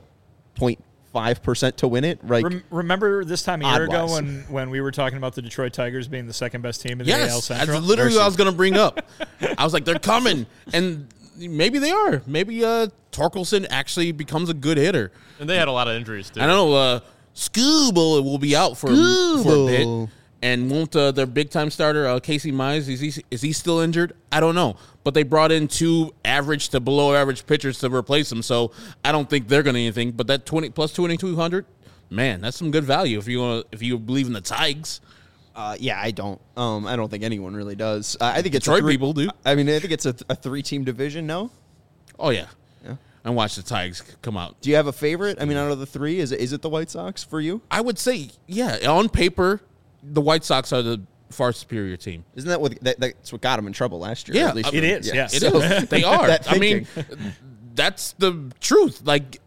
0.5% to win it. Right? Remember this time a year ago Odd-wise. when we were talking about the Detroit Tigers being the second best team in the AL Yes. Central? That's literally what I was going to bring up. I was like, they're coming. And maybe they are. Maybe Torkelson actually becomes a good hitter. And they had a lot of injuries, too. I don't know. Scooble will be out for a bit. And won't their big-time starter, Casey Mize, is he still injured? I don't know. But they brought in 2 average to below-average pitchers to replace him, so I don't think they're going to do anything. But that 20 plus 2,200, man, that's some good value if you believe in the Tigers. Yeah, I don't. I don't think anyone really does. I think it's Detroit people do. I mean, I think it's a 3-team division. No. Oh, yeah. Yeah. And watch the Tigers come out. Do you have a favorite? I mean, out of the 3, is it the White Sox for you? I would say, yeah, on paper, the White Sox are the far superior team. Isn't that that's what got them in trouble last year? Yeah, at least it is. Yes, It is. They are. That I mean, that's the truth.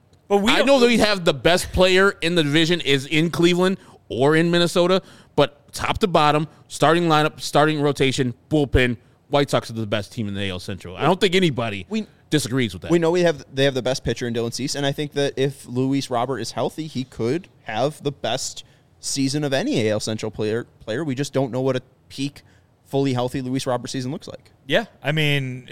I know that we have the best player in the division is in Cleveland or in Minnesota, but top to bottom, starting lineup, starting rotation, bullpen, White Sox are the best team in the AL Central. I don't think anybody disagrees with that. We know they have the best pitcher in Dylan Cease, and I think that if Luis Robert is healthy, he could have the best season of any AL Central player. We just don't know what a peak, fully healthy Luis Robert season looks like. Yeah, I mean,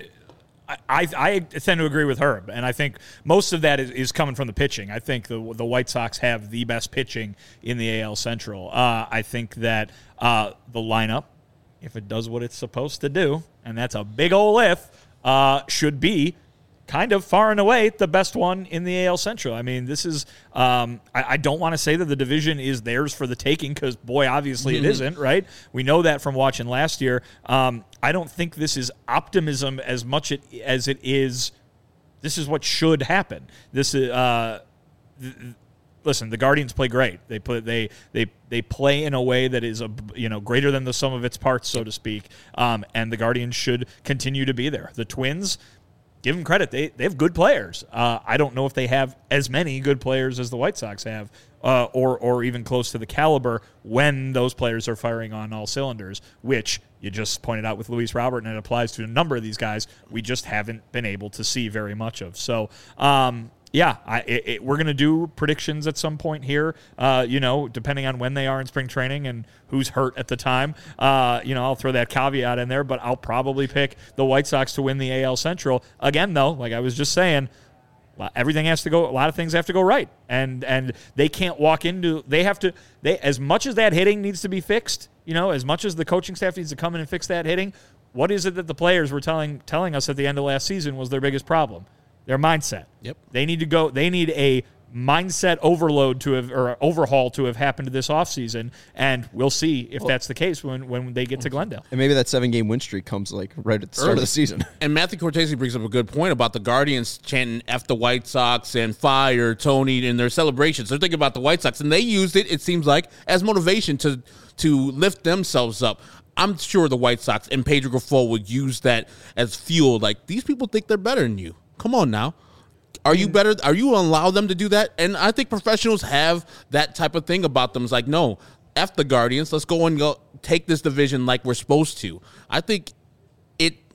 I tend to agree with Herb, and I think most of that is coming from the pitching. I think the White Sox have the best pitching in the AL Central. I think that the lineup, if it does what it's supposed to do, and that's a big ol' if, should be kind of far and away the best one in the AL Central. I mean, this is I don't want to say that the division is theirs for the taking because, boy, obviously it isn't, right? We know that from watching last year. I don't think this is optimism as much as it is this is what should happen. This is listen, the Guardians play great. They play in a way that is greater than the sum of its parts, so to speak. And the Guardians should continue to be there. The Twins, give them credit. They have good players. I don't know if they have as many good players as the White Sox have, or even close to the caliber when those players are firing on all cylinders, which you just pointed out with Luis Robert, and it applies to a number of these guys we just haven't been able to see very much of. So, we're going to do predictions at some point here, depending on when they are in spring training and who's hurt at the time. I'll throw that caveat in there, but I'll probably pick the White Sox to win the AL Central. Again, though, like I was just saying, everything has to go, a lot of things have to go right. And they can't walk into, as much as that hitting needs to be fixed, as much as the coaching staff needs to come in and fix that hitting, what is it that the players were telling us at the end of last season was their biggest problem? Their mindset. Yep. They need a mindset overhaul to have happened this offseason, and we'll see if that's the case when they get to Glendale. And maybe that 7-game win streak comes right at the start of the season. And Matthew Cortese brings up a good point about the Guardians chanting F the White Sox and fire Tony in their celebrations. They're thinking about the White Sox, and they used it seems like, as motivation to lift themselves up. I'm sure the White Sox and Pedro Grifol would use that as fuel. Like, these people think they're better than you. Come on now. Are you better? Are you allow them to do that? And I think professionals have that type of thing about them. It's like, no, F the Guardians. Let's go take this division like we're supposed to. I think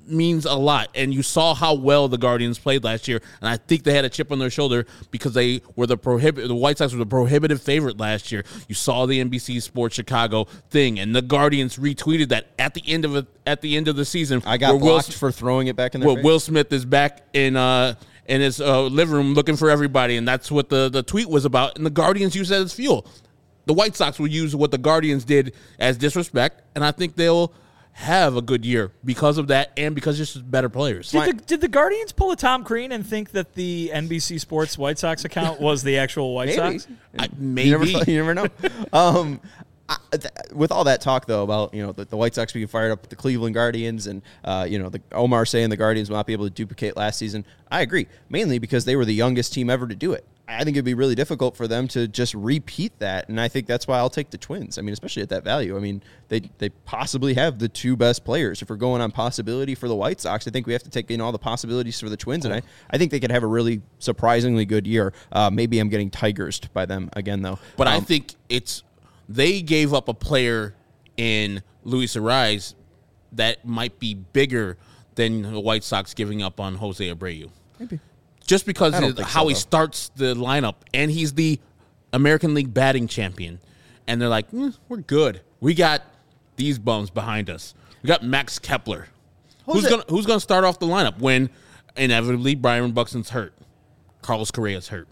means a lot. And you saw how well the Guardians played last year, and I think they had a chip on their shoulder because they were the White Sox were the prohibitive favorite last year. You saw the NBC Sports Chicago thing, and the Guardians retweeted that at the end of the season. I got blocked for throwing it back in their face. Will Smith is back in his living room looking for everybody, and that's what the tweet was about. And the Guardians used that as fuel. The White Sox will use what the Guardians did as disrespect, and I think they'll have a good year because of that and because it's just better players. Did the Guardians pull a Tom Crean and think that the NBC Sports White Sox account was the actual White Sox? Maybe. You never know. With all that talk, though, about the White Sox being fired up with the Cleveland Guardians and the Omar saying the Guardians will not be able to duplicate last season, I agree, mainly because they were the youngest team ever to do it. I think it'd be really difficult for them to just repeat that, and I think that's why I'll take the Twins. I mean, especially at that value. I mean, they possibly have the two best players. If we're going on possibility for the White Sox, I think we have to take in all the possibilities for the Twins, and I think they could have a really surprisingly good year. Maybe I'm getting Tigers by them again, though. But I think they gave up a player in Luis Arraez that might be bigger than the White Sox giving up on Jose Abreu. Maybe. Just because of how he though. starts the lineup, and he's the American League batting champion. And they're like, we're good. We got these bums behind us. We got Max Kepler. Who's gonna start off the lineup when inevitably Byron Buxton's hurt? Carlos Correa's hurt.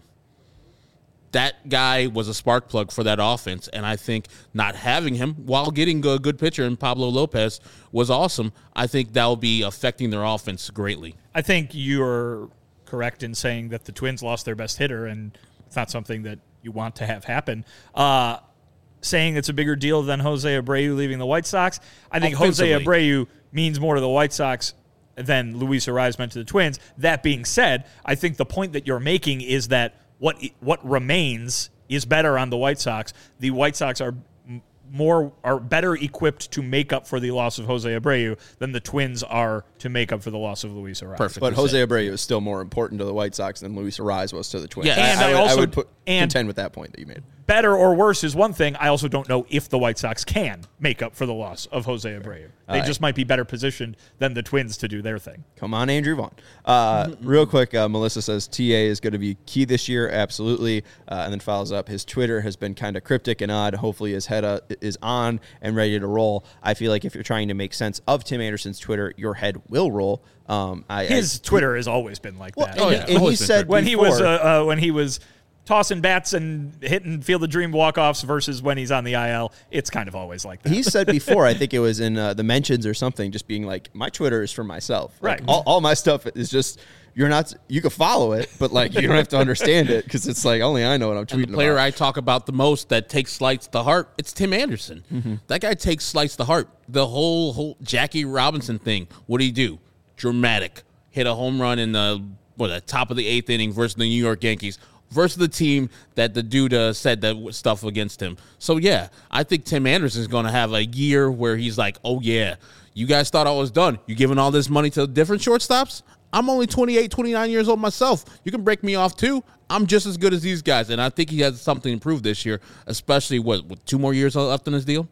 That guy was a spark plug for that offense, and I think not having him while getting a good pitcher in Pablo Lopez was awesome. I think that will be affecting their offense greatly. I think you're correct in saying that the Twins lost their best hitter, and it's not something that you want to have happen. Saying it's a bigger deal than Jose Abreu leaving the White Sox, I think Jose Abreu means more to the White Sox than Luis Arraez meant to the Twins. That being said, I think the point that you're making is that what remains is better on the White Sox. The White Sox are better equipped to make up for the loss of Jose Abreu than the Twins are to make up for the loss of Luis Arraez. Perfect. But Jose Abreu is still more important to the White Sox than Luis Arraez was to the Twins. Yeah, and I would contend with that point that you made. Better or worse is one thing. I also don't know if the White Sox can make up for the loss of Jose Abreu. They just might be better positioned than the Twins to do their thing. Come on, Andrew Vaughn. Real quick, Melissa says TA is going to be key this year. Absolutely. And then follows up, his Twitter has been kind of cryptic and odd. Hopefully his head is on and ready to roll. I feel like if you're trying to make sense of Tim Anderson's Twitter, your head will roll. His Twitter has always been like that. And he said when he was tossing bats and hitting Field of Dream walk-offs versus when he's on the IL, it's kind of always like that. He said before, I think it was in the mentions or something, just being like, my Twitter is for myself. Like, right. All my stuff is just, you can follow it, but like you don't have to understand it because it's like only I know what I'm tweeting about. The player I talk about the most that takes slights to heart, it's Tim Anderson. Mm-hmm. That guy takes slights to heart. The whole Jackie Robinson thing, what did he do? Dramatic. Hit a home run in the top of the 8th inning versus the New York Yankees. Versus the team that the dude said that stuff against him. So, yeah, I think Tim Anderson is going to have a year where he's like, oh, yeah, you guys thought I was done. You giving all this money to different shortstops? I'm only 28, 29 years old myself. You can break me off, too. I'm just as good as these guys. And I think he has something to prove this year, especially, with 2 more years left in his deal?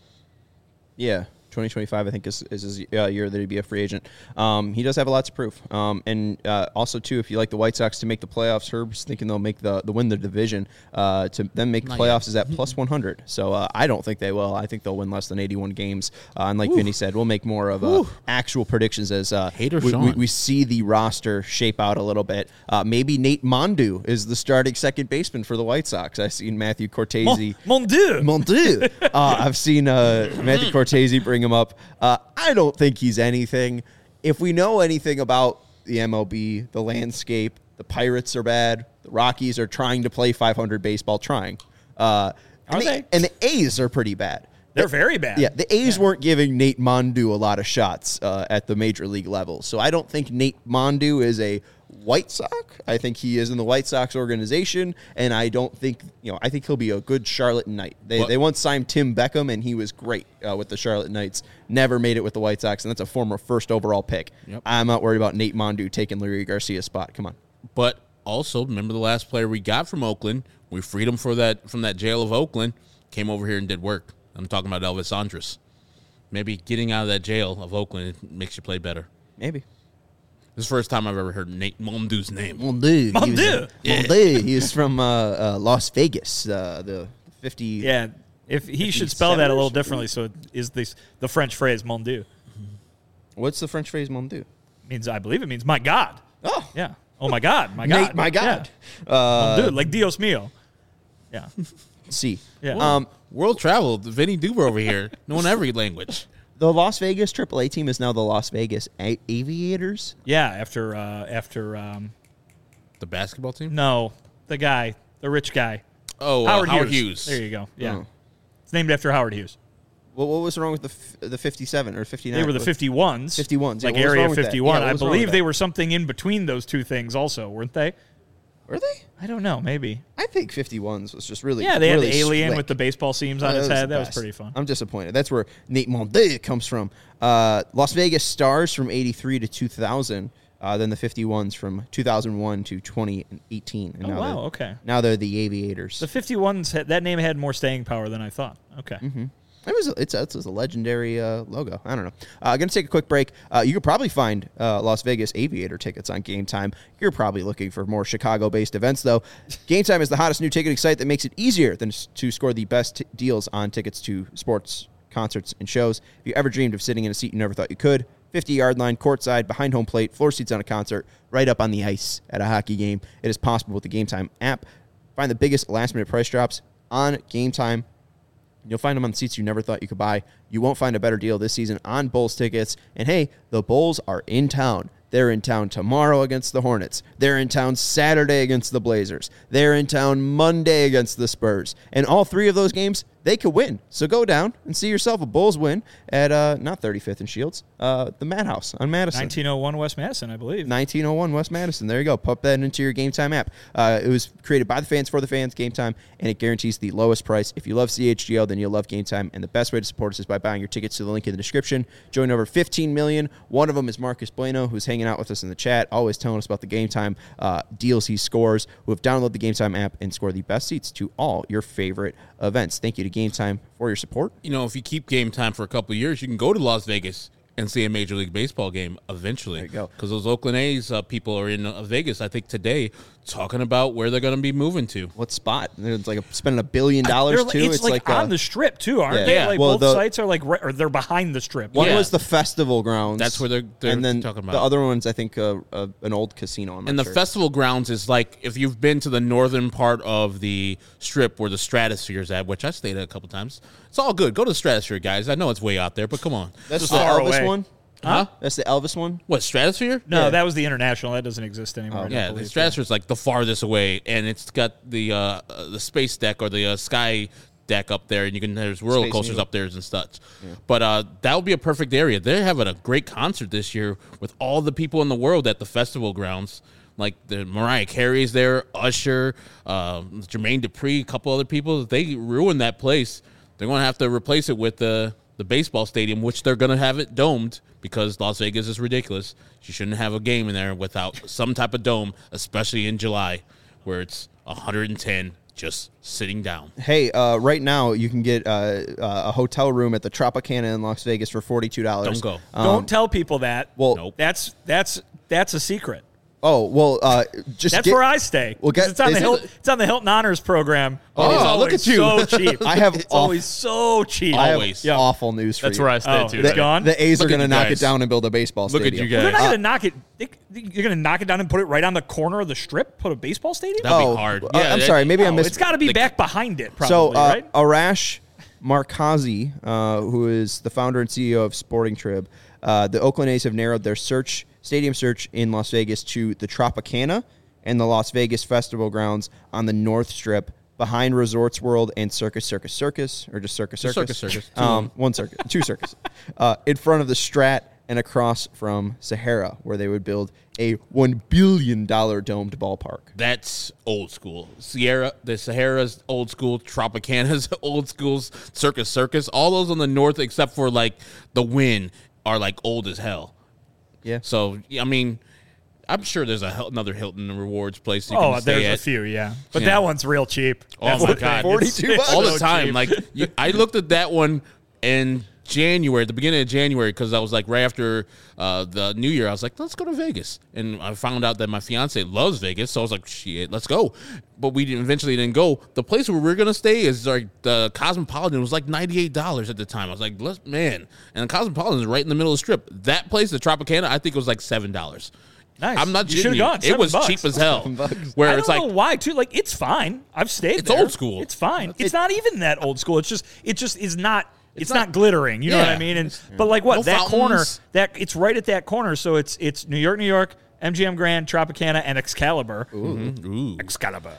Yeah. 2025, I think, is his year that he'd be a free agent. He does have a lot to prove. And also, too, if you like the White Sox to make the playoffs, Herb's thinking they'll make win the division. To then make the playoffs is at plus 100. So I don't think they will. I think they'll win less than 81 games. And like Vinny said, we'll make more of actual predictions as we see the roster shape out a little bit. Maybe Nate Mondu is the starting second baseman for the White Sox. I've seen Matthew Cortese. Mon Dieu. I've seen Matthew Cortese bring him up. I don't think he's anything. If we know anything about the MLB, the landscape, the Pirates are bad. The Rockies are trying to play 500 baseball, Are they? And the A's are pretty bad. They're very bad. Yeah, the A's weren't giving Nate Mondu a lot of shots at the major league level. So I don't think Nate Mondu is a White Sox. I think he is in the White Sox organization, and I don't think, I think he'll be a good Charlotte Knight. They once signed Tim Beckham, and he was great with the Charlotte Knights. Never made it with the White Sox, and that's a former first overall pick. Yep. I'm not worried about Nate Mondu taking Luis Garcia's spot. Come on. But also, remember the last player we got from Oakland? We freed him from that jail of Oakland, came over here and did work. I'm talking about Elvis Andrus. Maybe getting out of that jail of Oakland makes you play better. Maybe. This is the first time I've ever heard Nate Mondu's name. Mondu. Mondu. Mondu. He was from Las Vegas. The 50. Yeah, if he should spell that a little differently, so it is the French phrase "mon Dieu." What's the French phrase "mon Dieu"? I believe it means "my God." Oh, Yeah. Oh my God. My Nate, God. my God. Yeah. Mon Dieu, like Dios mío. Yeah. See. Yeah. World travel, Vinny Duber over here, knowing every language. The Las Vegas AAA team is now the Las Vegas Aviators. Yeah. After The basketball team? no, the rich guy. Oh, Howard Hughes. There you go. Yeah. Oh. It's named after Howard Hughes. Well, what was wrong with the 57 or 59? They were the 51s. 51s. Like Yeah, what was Area wrong with that? 51. Yeah, what I was wrong believe with they that? were something in between those two things also, weren't they? Were they? I don't know. Maybe. I think 51s was just really Yeah, they really had the alien slick. with the baseball seams on Oh, his head. the That was best. pretty fun. I'm disappointed. That's where Nate Monday comes from. Las Vegas Stars from 83 to 2000. Then the 51s from 2001 to 2018. And Oh, now wow. they're- Okay. Now they're the Aviators. The 51s, that name had more staying power than I thought. Okay. Mm-hmm. It's a legendary logo. I don't know. Going to take a quick break. You could probably find Las Vegas Aviator tickets on Game Time. You're probably looking for more Chicago-based events, though. Game Time is the hottest new ticketing site that makes it easier to score the best deals on tickets to sports, concerts, and shows. If you ever dreamed of sitting in a seat you never thought you could, 50-yard line, courtside, behind home plate, floor seats on a concert, right up on the ice at a hockey game, it is possible with the Game Time app. Find the biggest last-minute price drops on Game Time. You'll find them on seats you never thought you could buy. You won't find a better deal this season on Bulls tickets. And hey, the Bulls are in town. They're in town tomorrow against the Hornets. They're in town Saturday against the Blazers. They're in town Monday against the Spurs. And all three of those games, they could win. So go down and see yourself a Bulls win at not 35th and Shields, the Madhouse on Madison. 1901 West Madison, I believe. 1901 West Madison. There you go. Pop that into your Game Time app. It was created by the fans for the fans, Game Time, and it guarantees the lowest price. If you love CHGO, then you'll love Game Time, and the best way to support us is by buying your tickets to the link in the description. Join over 15 million. One of them is Marcus Bueno, who's hanging out with us in the chat, always telling us about the Game Time deals he scores, who have downloaded the Game Time app and score the best seats to all your favorite events. Thank you to Game Time for your support. You know, if you keep Game Time for a couple of years, you can go to Las Vegas and see a Major League Baseball game eventually. There you go. Because those Oakland A's people are in Vegas, I think, today, talking about where they're going to be moving to. What spot? It's like spending $1 billion too. It's like on the strip too, aren't Yeah. they? Yeah. Like Well, both sites are like, or they're behind the strip. One Yeah. was the festival grounds. That's where they're and then talking about. the other one's, I think, an old casino. I'm not And the sure. festival grounds is like if you've been to the northern part of the strip where the Stratosphere is at, which I stayed at a couple times. It's all good. Go to the Stratosphere, guys. I know it's way out there, but come on. That's Just the far Elvis away. one. Huh? That's the Elvis one. What, Stratosphere? No, Yeah. that was the international. That doesn't exist anymore. I don't Yeah, the believe. Stratosphere is like the farthest away, and it's got the space deck or the sky deck up there, and there's roller Space coasters Needle. up there and such. Yeah. But that would be a perfect area. They're having a great concert this year with all the people in the world at the festival grounds. Like the Mariah Carey's there, Usher, Jermaine Dupri, a couple other people. If they ruin that place, they're going to have to replace it with the baseball stadium, which they're going to have it domed because Las Vegas is ridiculous. You shouldn't have a game in there without some type of dome, especially in July where it's 110 just sitting down. Hey, right now you can get a hotel room at the Tropicana in Las Vegas for $42. Don't go. Don't tell people that. Well, Nope. That's a secret. Oh well, just That's get, where I stay. Well, 'Cause get- it's on the is it- Hilton. It's on the Hilton Honors Program. Oh, And it's look always at you. So cheap. I have It's off- always so cheap. I have Always. Yeah. awful news for That's you. where I stay Oh, too. it's right? gone? The A's are Look at going to you knock it guys. down and build a baseball Look at stadium. you They're guys. not going to knock it. You're going to knock it down and put it right on the corner of the strip. Put a baseball stadium. That'd be hard. Yeah, I'm sorry. Maybe I Oh, missed. it's got to be back behind it. So, Probably right. Arash Markazi, who is the founder and CEO of Sporting Trib, the Oakland A's have narrowed their stadium search in Las Vegas to the Tropicana and the Las Vegas Festival Grounds on the North Strip behind Resorts World and Circus Circus Circus, or just Circus Circus? Circus. One circus, two circus. In front of the Strat and across from Sahara, where they would build a $1 billion domed ballpark. That's old school. The Sahara's old school, Tropicana's old school, Circus, all those on the north except for like the Wynn are like old as hell. Yeah. So, I mean, I'm sure there's another Hilton Rewards place you Oh, can stay there's at. a few, yeah. But Yeah. that one's real cheap. Oh, That's my the thing. God. $42 It's All the so time. cheap. Like, I looked at that one and January, the beginning of January, because I was like right after the New Year, I was like, let's go to Vegas. And I found out that my fiance loves Vegas, so I was like, shit, let's go. But we eventually didn't go. The place where we're going to stay is like the Cosmopolitan. It was like $98 at the time. I was like, man. And the Cosmopolitan is right in the middle of the strip. That place, the Tropicana, I think it was like $7. Nice. I'm not You shitting you. gone. It was $7. cheap as hell. Where I it's don't like, know why too. Like it's fine. I've stayed. It's there. old school. It's fine. It's not even that old school. It just is not. It's not glittering. You know what I mean? And but like what No that corner fountains. it's right at that corner. So it's New York, MGM Grand, Tropicana, and Excalibur. ooh. Excalibur.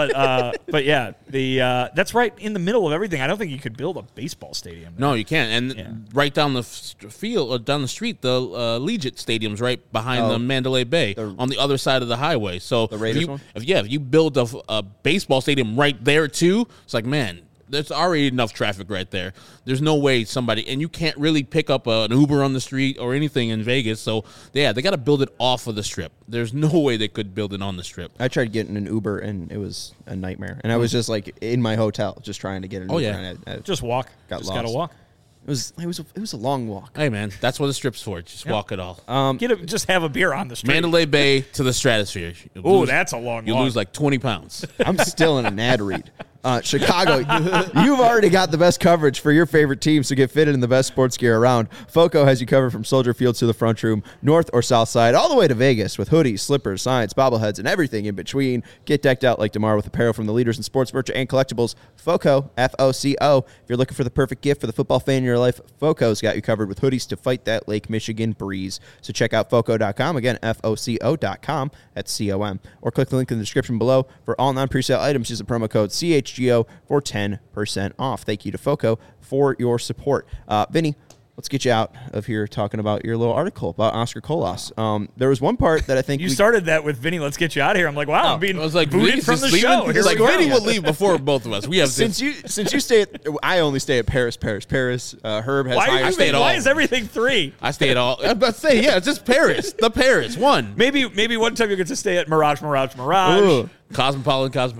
But yeah, that's right in the middle of everything. I don't think you could build a baseball stadium there. No, you can't. And right down the field, or down the street, the Legion Stadium's right behind the Mandalay Bay on the other side of the highway. So The Raiders if one? if you build a baseball stadium right there too, it's like, man, there's already enough traffic right there. There's no way and you can't really pick up an Uber on the street or anything in Vegas. So they got to build it off of the strip. There's no way they could build it on the strip. I tried getting an Uber, and it was a nightmare. And I was just like in my hotel, just trying to get an Uber. yeah. And I Just walk. Got Just gotta lost. walk. it was a long walk. Hey, man, that's what the strip's for. Just walk it all. Just have a beer on the street. Mandalay Bay to the stratosphere. Oh, that's a long You walk. lose like 20 pounds. I'm still in an ad read. Chicago, you've already got the best coverage for your favorite team, so get fitted in the best sports gear around. FOCO has you covered from Soldier Field to the front room, north or south side, all the way to Vegas with hoodies, slippers, signs, bobbleheads, and everything in between. Get decked out like DeMar with apparel from the leaders in sports merch and collectibles. FOCO, F-O-C-O. If you're looking for the perfect gift for the football fan in your life, FOCO's got you covered with hoodies to fight that Lake Michigan breeze. So check out FOCO.com. Again, F-O-C-O.com. That's C-O-M. Or click the link in the description below. For all non-presale items, use the promo code CHGO for 10% off. Thank you to FOCO for your support. Vinny, let's get you out of here talking about your little article about Oscar Colas. There was one part that I think You started that with Vinny. Let's get you out of here. I'm like, wow, I'm being I was like, booted Vinny's from just the leaving? show. It's Here like we go. Vinny will leave before both of us. We have since you stay at, I only stay at Paris. Herb has higher. Why is everything 3? I stay at all. I'm about to say, it's just Paris. The Paris one. Maybe one time you get to stay at Mirage. Ooh. Cosmopolitan.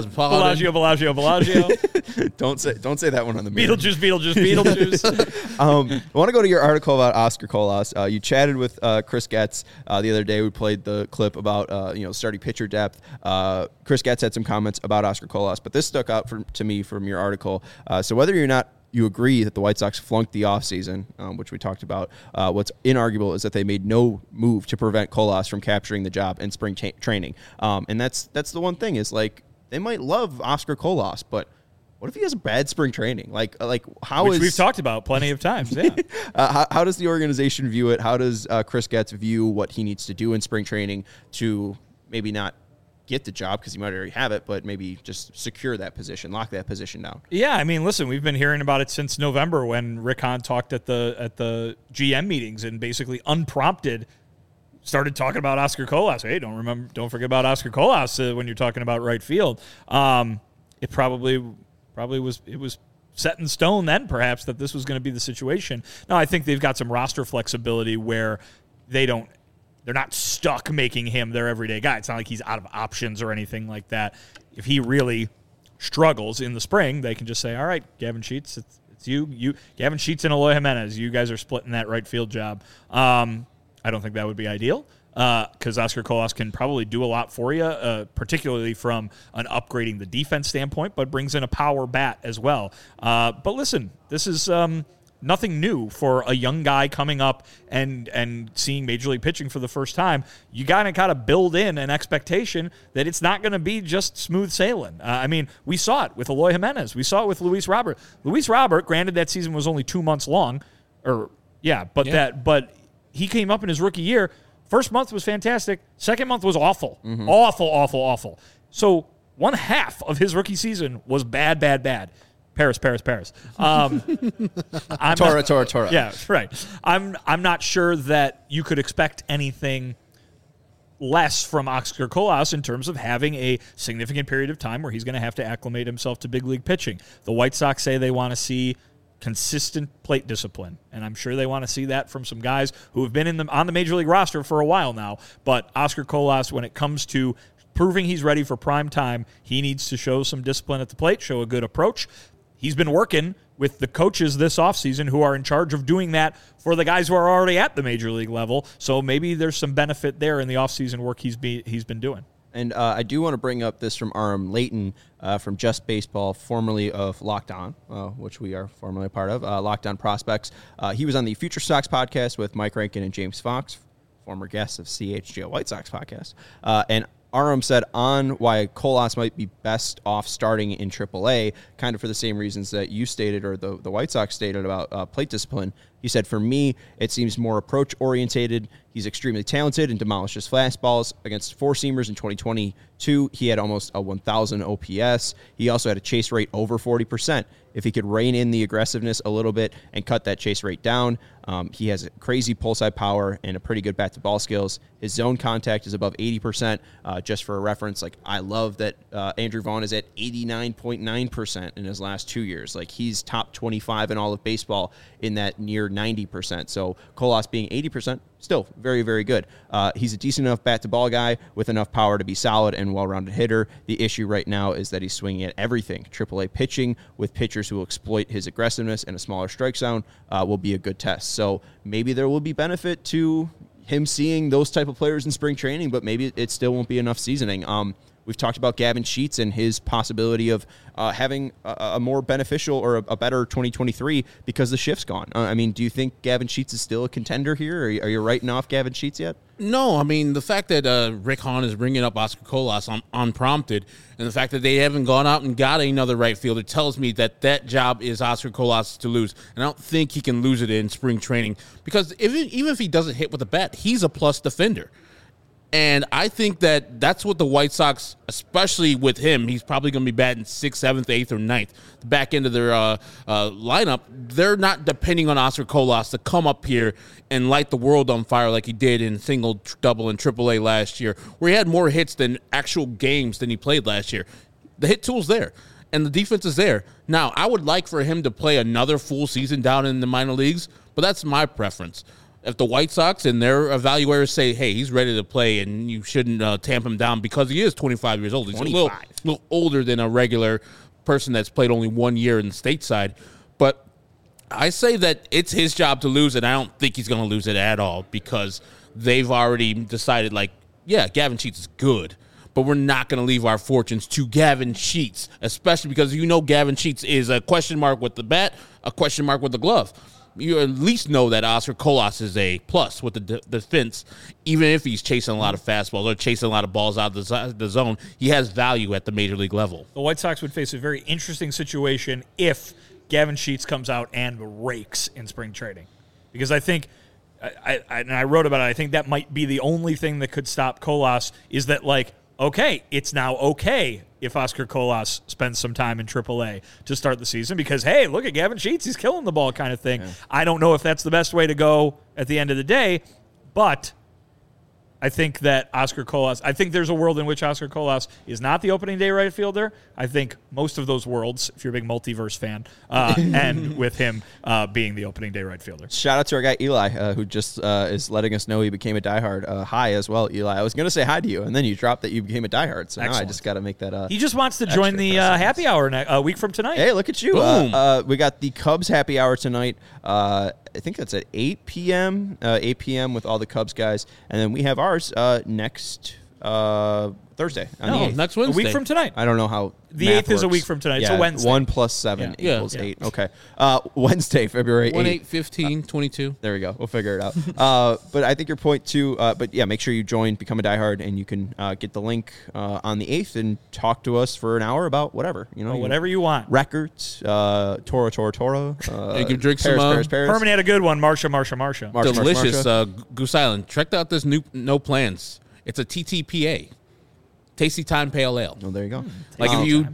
Bellagio. Don't say that one on the mirror. Beetlejuice. I want to go to your article about Oscar Colas. You chatted with Chris Getz the other day. We played the clip about starting pitcher depth. Chris Getz had some comments about Oscar Colas, but this stuck out to me from your article. So whether or not you agree that the White Sox flunked the offseason, which we talked about, what's inarguable is that they made no move to prevent Colas from capturing the job in spring training. And that's the one thing is, like, they might love Oscar Colas, but what if he has a bad spring training? Like how Which is we've talked about plenty of times. Yeah. how does the organization view it? How does Chris Getz view what he needs to do in spring training to maybe not get the job because he might already have it, but maybe just secure that position, lock that position down? Yeah, I mean, listen, we've been hearing about it since November when Rick Hahn talked at the GM meetings and basically unprompted started talking about Oscar Colas. Hey, don't forget about Oscar Colas when you're talking about right field. It probably was set in stone then, perhaps, that this was going to be the situation. Now, I think they've got some roster flexibility where they're not stuck making him their everyday guy. It's not like he's out of options or anything like that. If he really struggles in the spring, they can just say, all right, Gavin Sheets, it's you, Gavin Sheets and Eloy Jimenez, you guys are splitting that right field job. I don't think that would be ideal because Oscar Colas can probably do a lot for you, particularly from an upgrading the defense standpoint, but brings in a power bat as well. But listen, this is nothing new for a young guy coming up and seeing Major League pitching for the first time. You gotta kind of build in an expectation that it's not going to be just smooth sailing. I mean, we saw it with Eloy Jimenez. We saw it with Luis Robert. Luis Robert, granted that season was only 2 months long, but he came up in his rookie year. First month was fantastic. Second month was awful. Mm-hmm. Awful. So 1/2 of his rookie season was bad. Paris. Tora. Yeah, right. I'm not sure that you could expect anything less from Oscar Colas in terms of having a significant period of time where he's going to have to acclimate himself to big league pitching. The White Sox say they want to see consistent plate discipline, and I'm sure they want to see that from some guys who have been on the Major League roster for a while now. But Oscar Colas, when it comes to proving he's ready for prime time, he needs to show some discipline at the plate, show a good approach. he's been working with the coaches this offseason who are in charge of doing that for the guys who are already at the major league level. So maybe there's some benefit there in the offseason work he's been doing. And I do want to bring up this from Aram Layton from Just Baseball, formerly of Locked On, which we are formerly a part of, Locked On Prospects. He was on the Future Sox podcast with Mike Rankin and James Fox, former guests of CHGO White Sox podcast. And Aram said on why Colas might be best off starting in AAA, kind of for the same reasons that you stated or the White Sox stated about plate discipline. He said, for me, it seems more approach-orientated. He's extremely talented and demolishes fastballs. Against four-seamers in 2022, he had almost a 1,000 OPS. He also had a chase rate over 40%. If he could rein in the aggressiveness a little bit and cut that chase rate down, he has crazy pull-side power and a pretty good bat-to-ball skills. His zone contact is above 80%. Just for a reference, like I love that Andrew Vaughn is at 89.9% in his last 2 years. Like he's top 25 in all of baseball in that near 90%. So Colas being 80%, still very, very good. He's a decent enough bat-to-ball guy with enough power to be solid and well-rounded hitter. The issue right now is that he's swinging at everything. AAA pitching with pitchers who will exploit his aggressiveness and a smaller strike zone will be a good test. So maybe there will be benefit to him seeing those type of players in spring training, but maybe it still won't be enough seasoning. We've talked about Gavin Sheets and his possibility of having a more beneficial or a better 2023 because the shift's gone. I mean, do you think Gavin Sheets is still a contender here? Are you writing off Gavin Sheets yet? No, I mean, the fact that Rick Hahn is bringing up Oscar Colas unprompted, and the fact that they haven't gone out and got another right fielder tells me that job is Oscar Colas to lose. And I don't think he can lose it in spring training because even if he doesn't hit with a bat, he's a plus defender. And I think that's what the White Sox, especially with him, he's probably going to be batting 6th, 7th, 8th, or 9th. The back end of their lineup, they're not depending on Oscar Colas to come up here and light the world on fire like he did in single, double, and AAA last year, where he had more hits than actual games than he played last year. The hit tool's there, and the defense is there. Now, I would like for him to play another full season down in the minor leagues, but that's my preference. If the White Sox and their evaluators say, hey, he's ready to play and you shouldn't tamp him down because he is 25 years old. He's 25. A little older than a regular person that's played only 1 year in the stateside. But I say that it's his job to lose, and I don't think he's going to lose it at all because they've already decided, like, yeah, Gavin Sheets is good, but we're not going to leave our fortunes to Gavin Sheets, especially because Gavin Sheets is a question mark with the bat, a question mark with the glove. You at least know that Oscar Colas is a plus with the defense, even if he's chasing a lot of fastballs or chasing a lot of balls out of the zone. He has value at the major league level. The White Sox would face a very interesting situation if Gavin Sheets comes out and rakes in spring training. Because I think, I wrote about it, I think that might be the only thing that could stop Colas is that, like, okay, it's now okay if Oscar Colas spends some time in AAA to start the season because, hey, look at Gavin Sheets, he's killing the ball kind of thing. Yeah. I don't know if that's the best way to go at the end of the day, but I think that I think there's a world in which Oscar Colas is not the opening day right fielder. I think most of those worlds, if you're a big multiverse fan, end with him being the opening day right fielder. Shout out to our guy Eli, who just is letting us know he became a diehard. Hi as well, Eli. I was going to say hi to you, and then you dropped that you became a diehard, so Excellent. Now I just got to make that He just wants to join the happy hour a week from tonight. Hey, look at you. We got the Cubs happy hour tonight. I think that's at 8 p.m. 8 p.m. with all the Cubs guys, and then we have ours next Thursday. Next Wednesday. A week from tonight. I don't know how the 8th is a week from tonight. Yeah, it's a Wednesday. 1 + 7 equals 8. Okay. Wednesday, February 8th. 1, 8, 15, 22. There we go. We'll figure it out. But I think your point too, but yeah, make sure you join, become a diehard, and you can get the link on the 8th and talk to us for an hour about whatever. Whatever you want. Records, Toro. You can drink Paris. Herman had a good one. Marsha. Delicious. Goose Island. Check out this new No Plans. It's a TTPA. Tasty Time Pale Ale. Oh, there you go. Like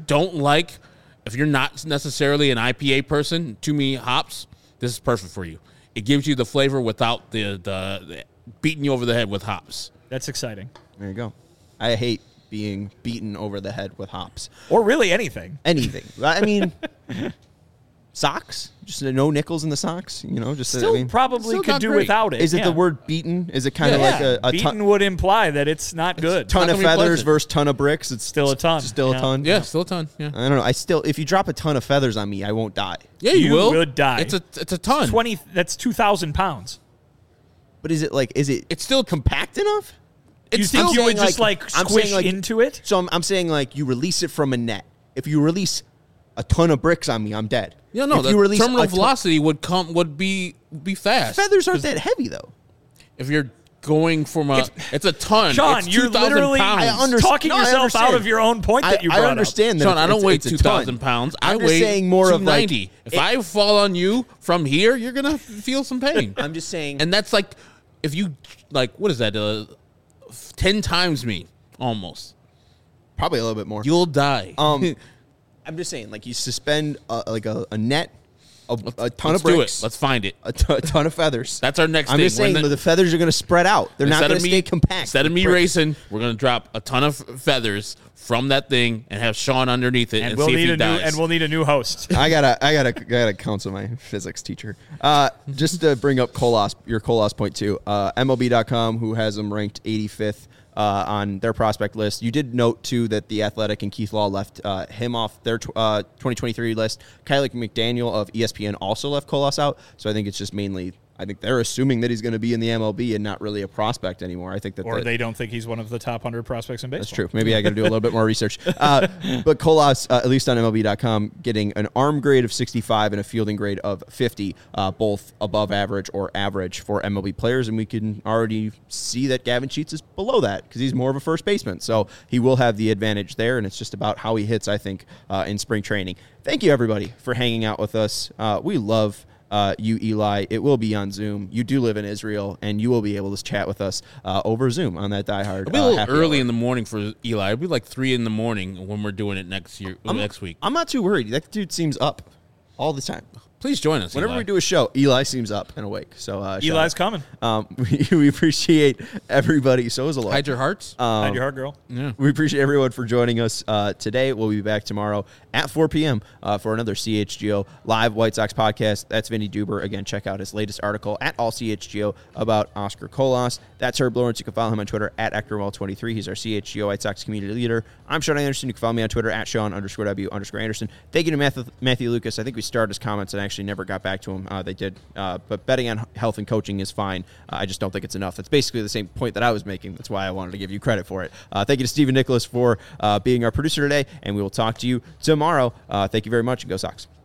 if you're not necessarily an IPA person, too many hops, this is perfect for you. It gives you the flavor without the beating you over the head with hops. That's exciting. There you go. I hate being beaten over the head with hops. Or really anything. Anything. I mean, Socks? Just no nickels in the socks? You know, just Still probably still could not do great. without it. Is it yeah. the word beaten? Is it kind of Yeah. like a beaten would imply that it's not good. ton not of gonna be feathers pleasant. versus ton of bricks? It's Still a ton. Still a Yeah. ton. Yeah, still a ton. Yeah, I don't know. If you drop a ton of feathers on me, I won't die. yeah, you will. would die. It's a ton. 20. That's 2,000 pounds. But is it It's still compact enough? You It's think still you would saying, just like- I'm squish saying, like- into it? So I'm saying like you release it from a net. If you release a ton of bricks on me, I'm dead. Yeah, no. If The you release terminal a ton- velocity would be fast. feathers aren't that heavy though. If you're going from it's a ton. Sean, it's you're 2,000 literally pounds. talking No, I yourself understand. out of your own point that you brought I up. understand that. Sean, I don't weigh it's a 2,000 ton. pounds. I'm I just weigh saying more of like 290. If I fall on you from here, you're gonna feel some pain. I'm just saying. And that's like, if you what is that? 10 times me almost. Probably a little bit more. You'll die. I'm just saying, like you suspend a net, a ton Let's of do bricks, it. Let's find it. a ton of feathers. That's our next I'm thing. just saying the feathers are going to spread out. They're not going to stay compact. Instead of me Bricks. racing, we're gonna drop a ton of feathers from that thing and have Sean underneath it and, we'll see if need he a dies. and we'll need a new host. I gotta counsel my physics teacher. Just to bring up your Colas point too. MLB.com, who has them ranked 85th on their prospect list. You did note too that the Athletic and Keith Law left him off their 2023 list. Kylie McDaniel of ESPN also left Colas out. So I think it's just mainly. I think they're assuming that he's going to be in the MLB and not really a prospect anymore. I think that Or they don't think he's one of the top 100 prospects in baseball. That's true. Maybe I got to do a little bit more research. But Colas, at least on MLB.com, getting an arm grade of 65 and a fielding grade of 50, both above average or average for MLB players. And we can already see that Gavin Sheets is below that because he's more of a first baseman. So he will have the advantage there. And it's just about how he hits, I think, in spring training. Thank you, everybody, for hanging out with us. We love you, Eli. It will be on Zoom. You do live in Israel, and you will be able to chat with us over Zoom on that Die Hard. It'll be a little happy early hour. in the morning for Eli. It'll be like 3 in the morning when we're doing it next week. I'm not too worried. That dude seems up all the time. Please join us. Whenever Eli. we do a show, Eli seems up and awake. So Eli's coming. we appreciate everybody. So is a lot. Hide your hearts. Hide your heart, girl. Yeah. We appreciate everyone for joining us today. We'll be back tomorrow at 4 p.m. For another CHGO live White Sox podcast. That's Vinny Duber. Again, check out his latest article at All CHGO about Oscar Colas. That's Herb Lawrence. You can follow him on Twitter at ActorWall23. He's our CHGO White Sox community leader. I'm Sean Anderson. You can follow me on Twitter at Sean_W_Anderson. Thank you to Matthew Lucas. I think we started his comments and actually never got back to him. They did. But betting on health and coaching is fine. I just don't think it's enough. That's basically the same point that I was making. That's why I wanted to give you credit for it. Thank you to Stephen Nicholas for being our producer today, and we will talk to you tomorrow. Thank you very much, and go Sox.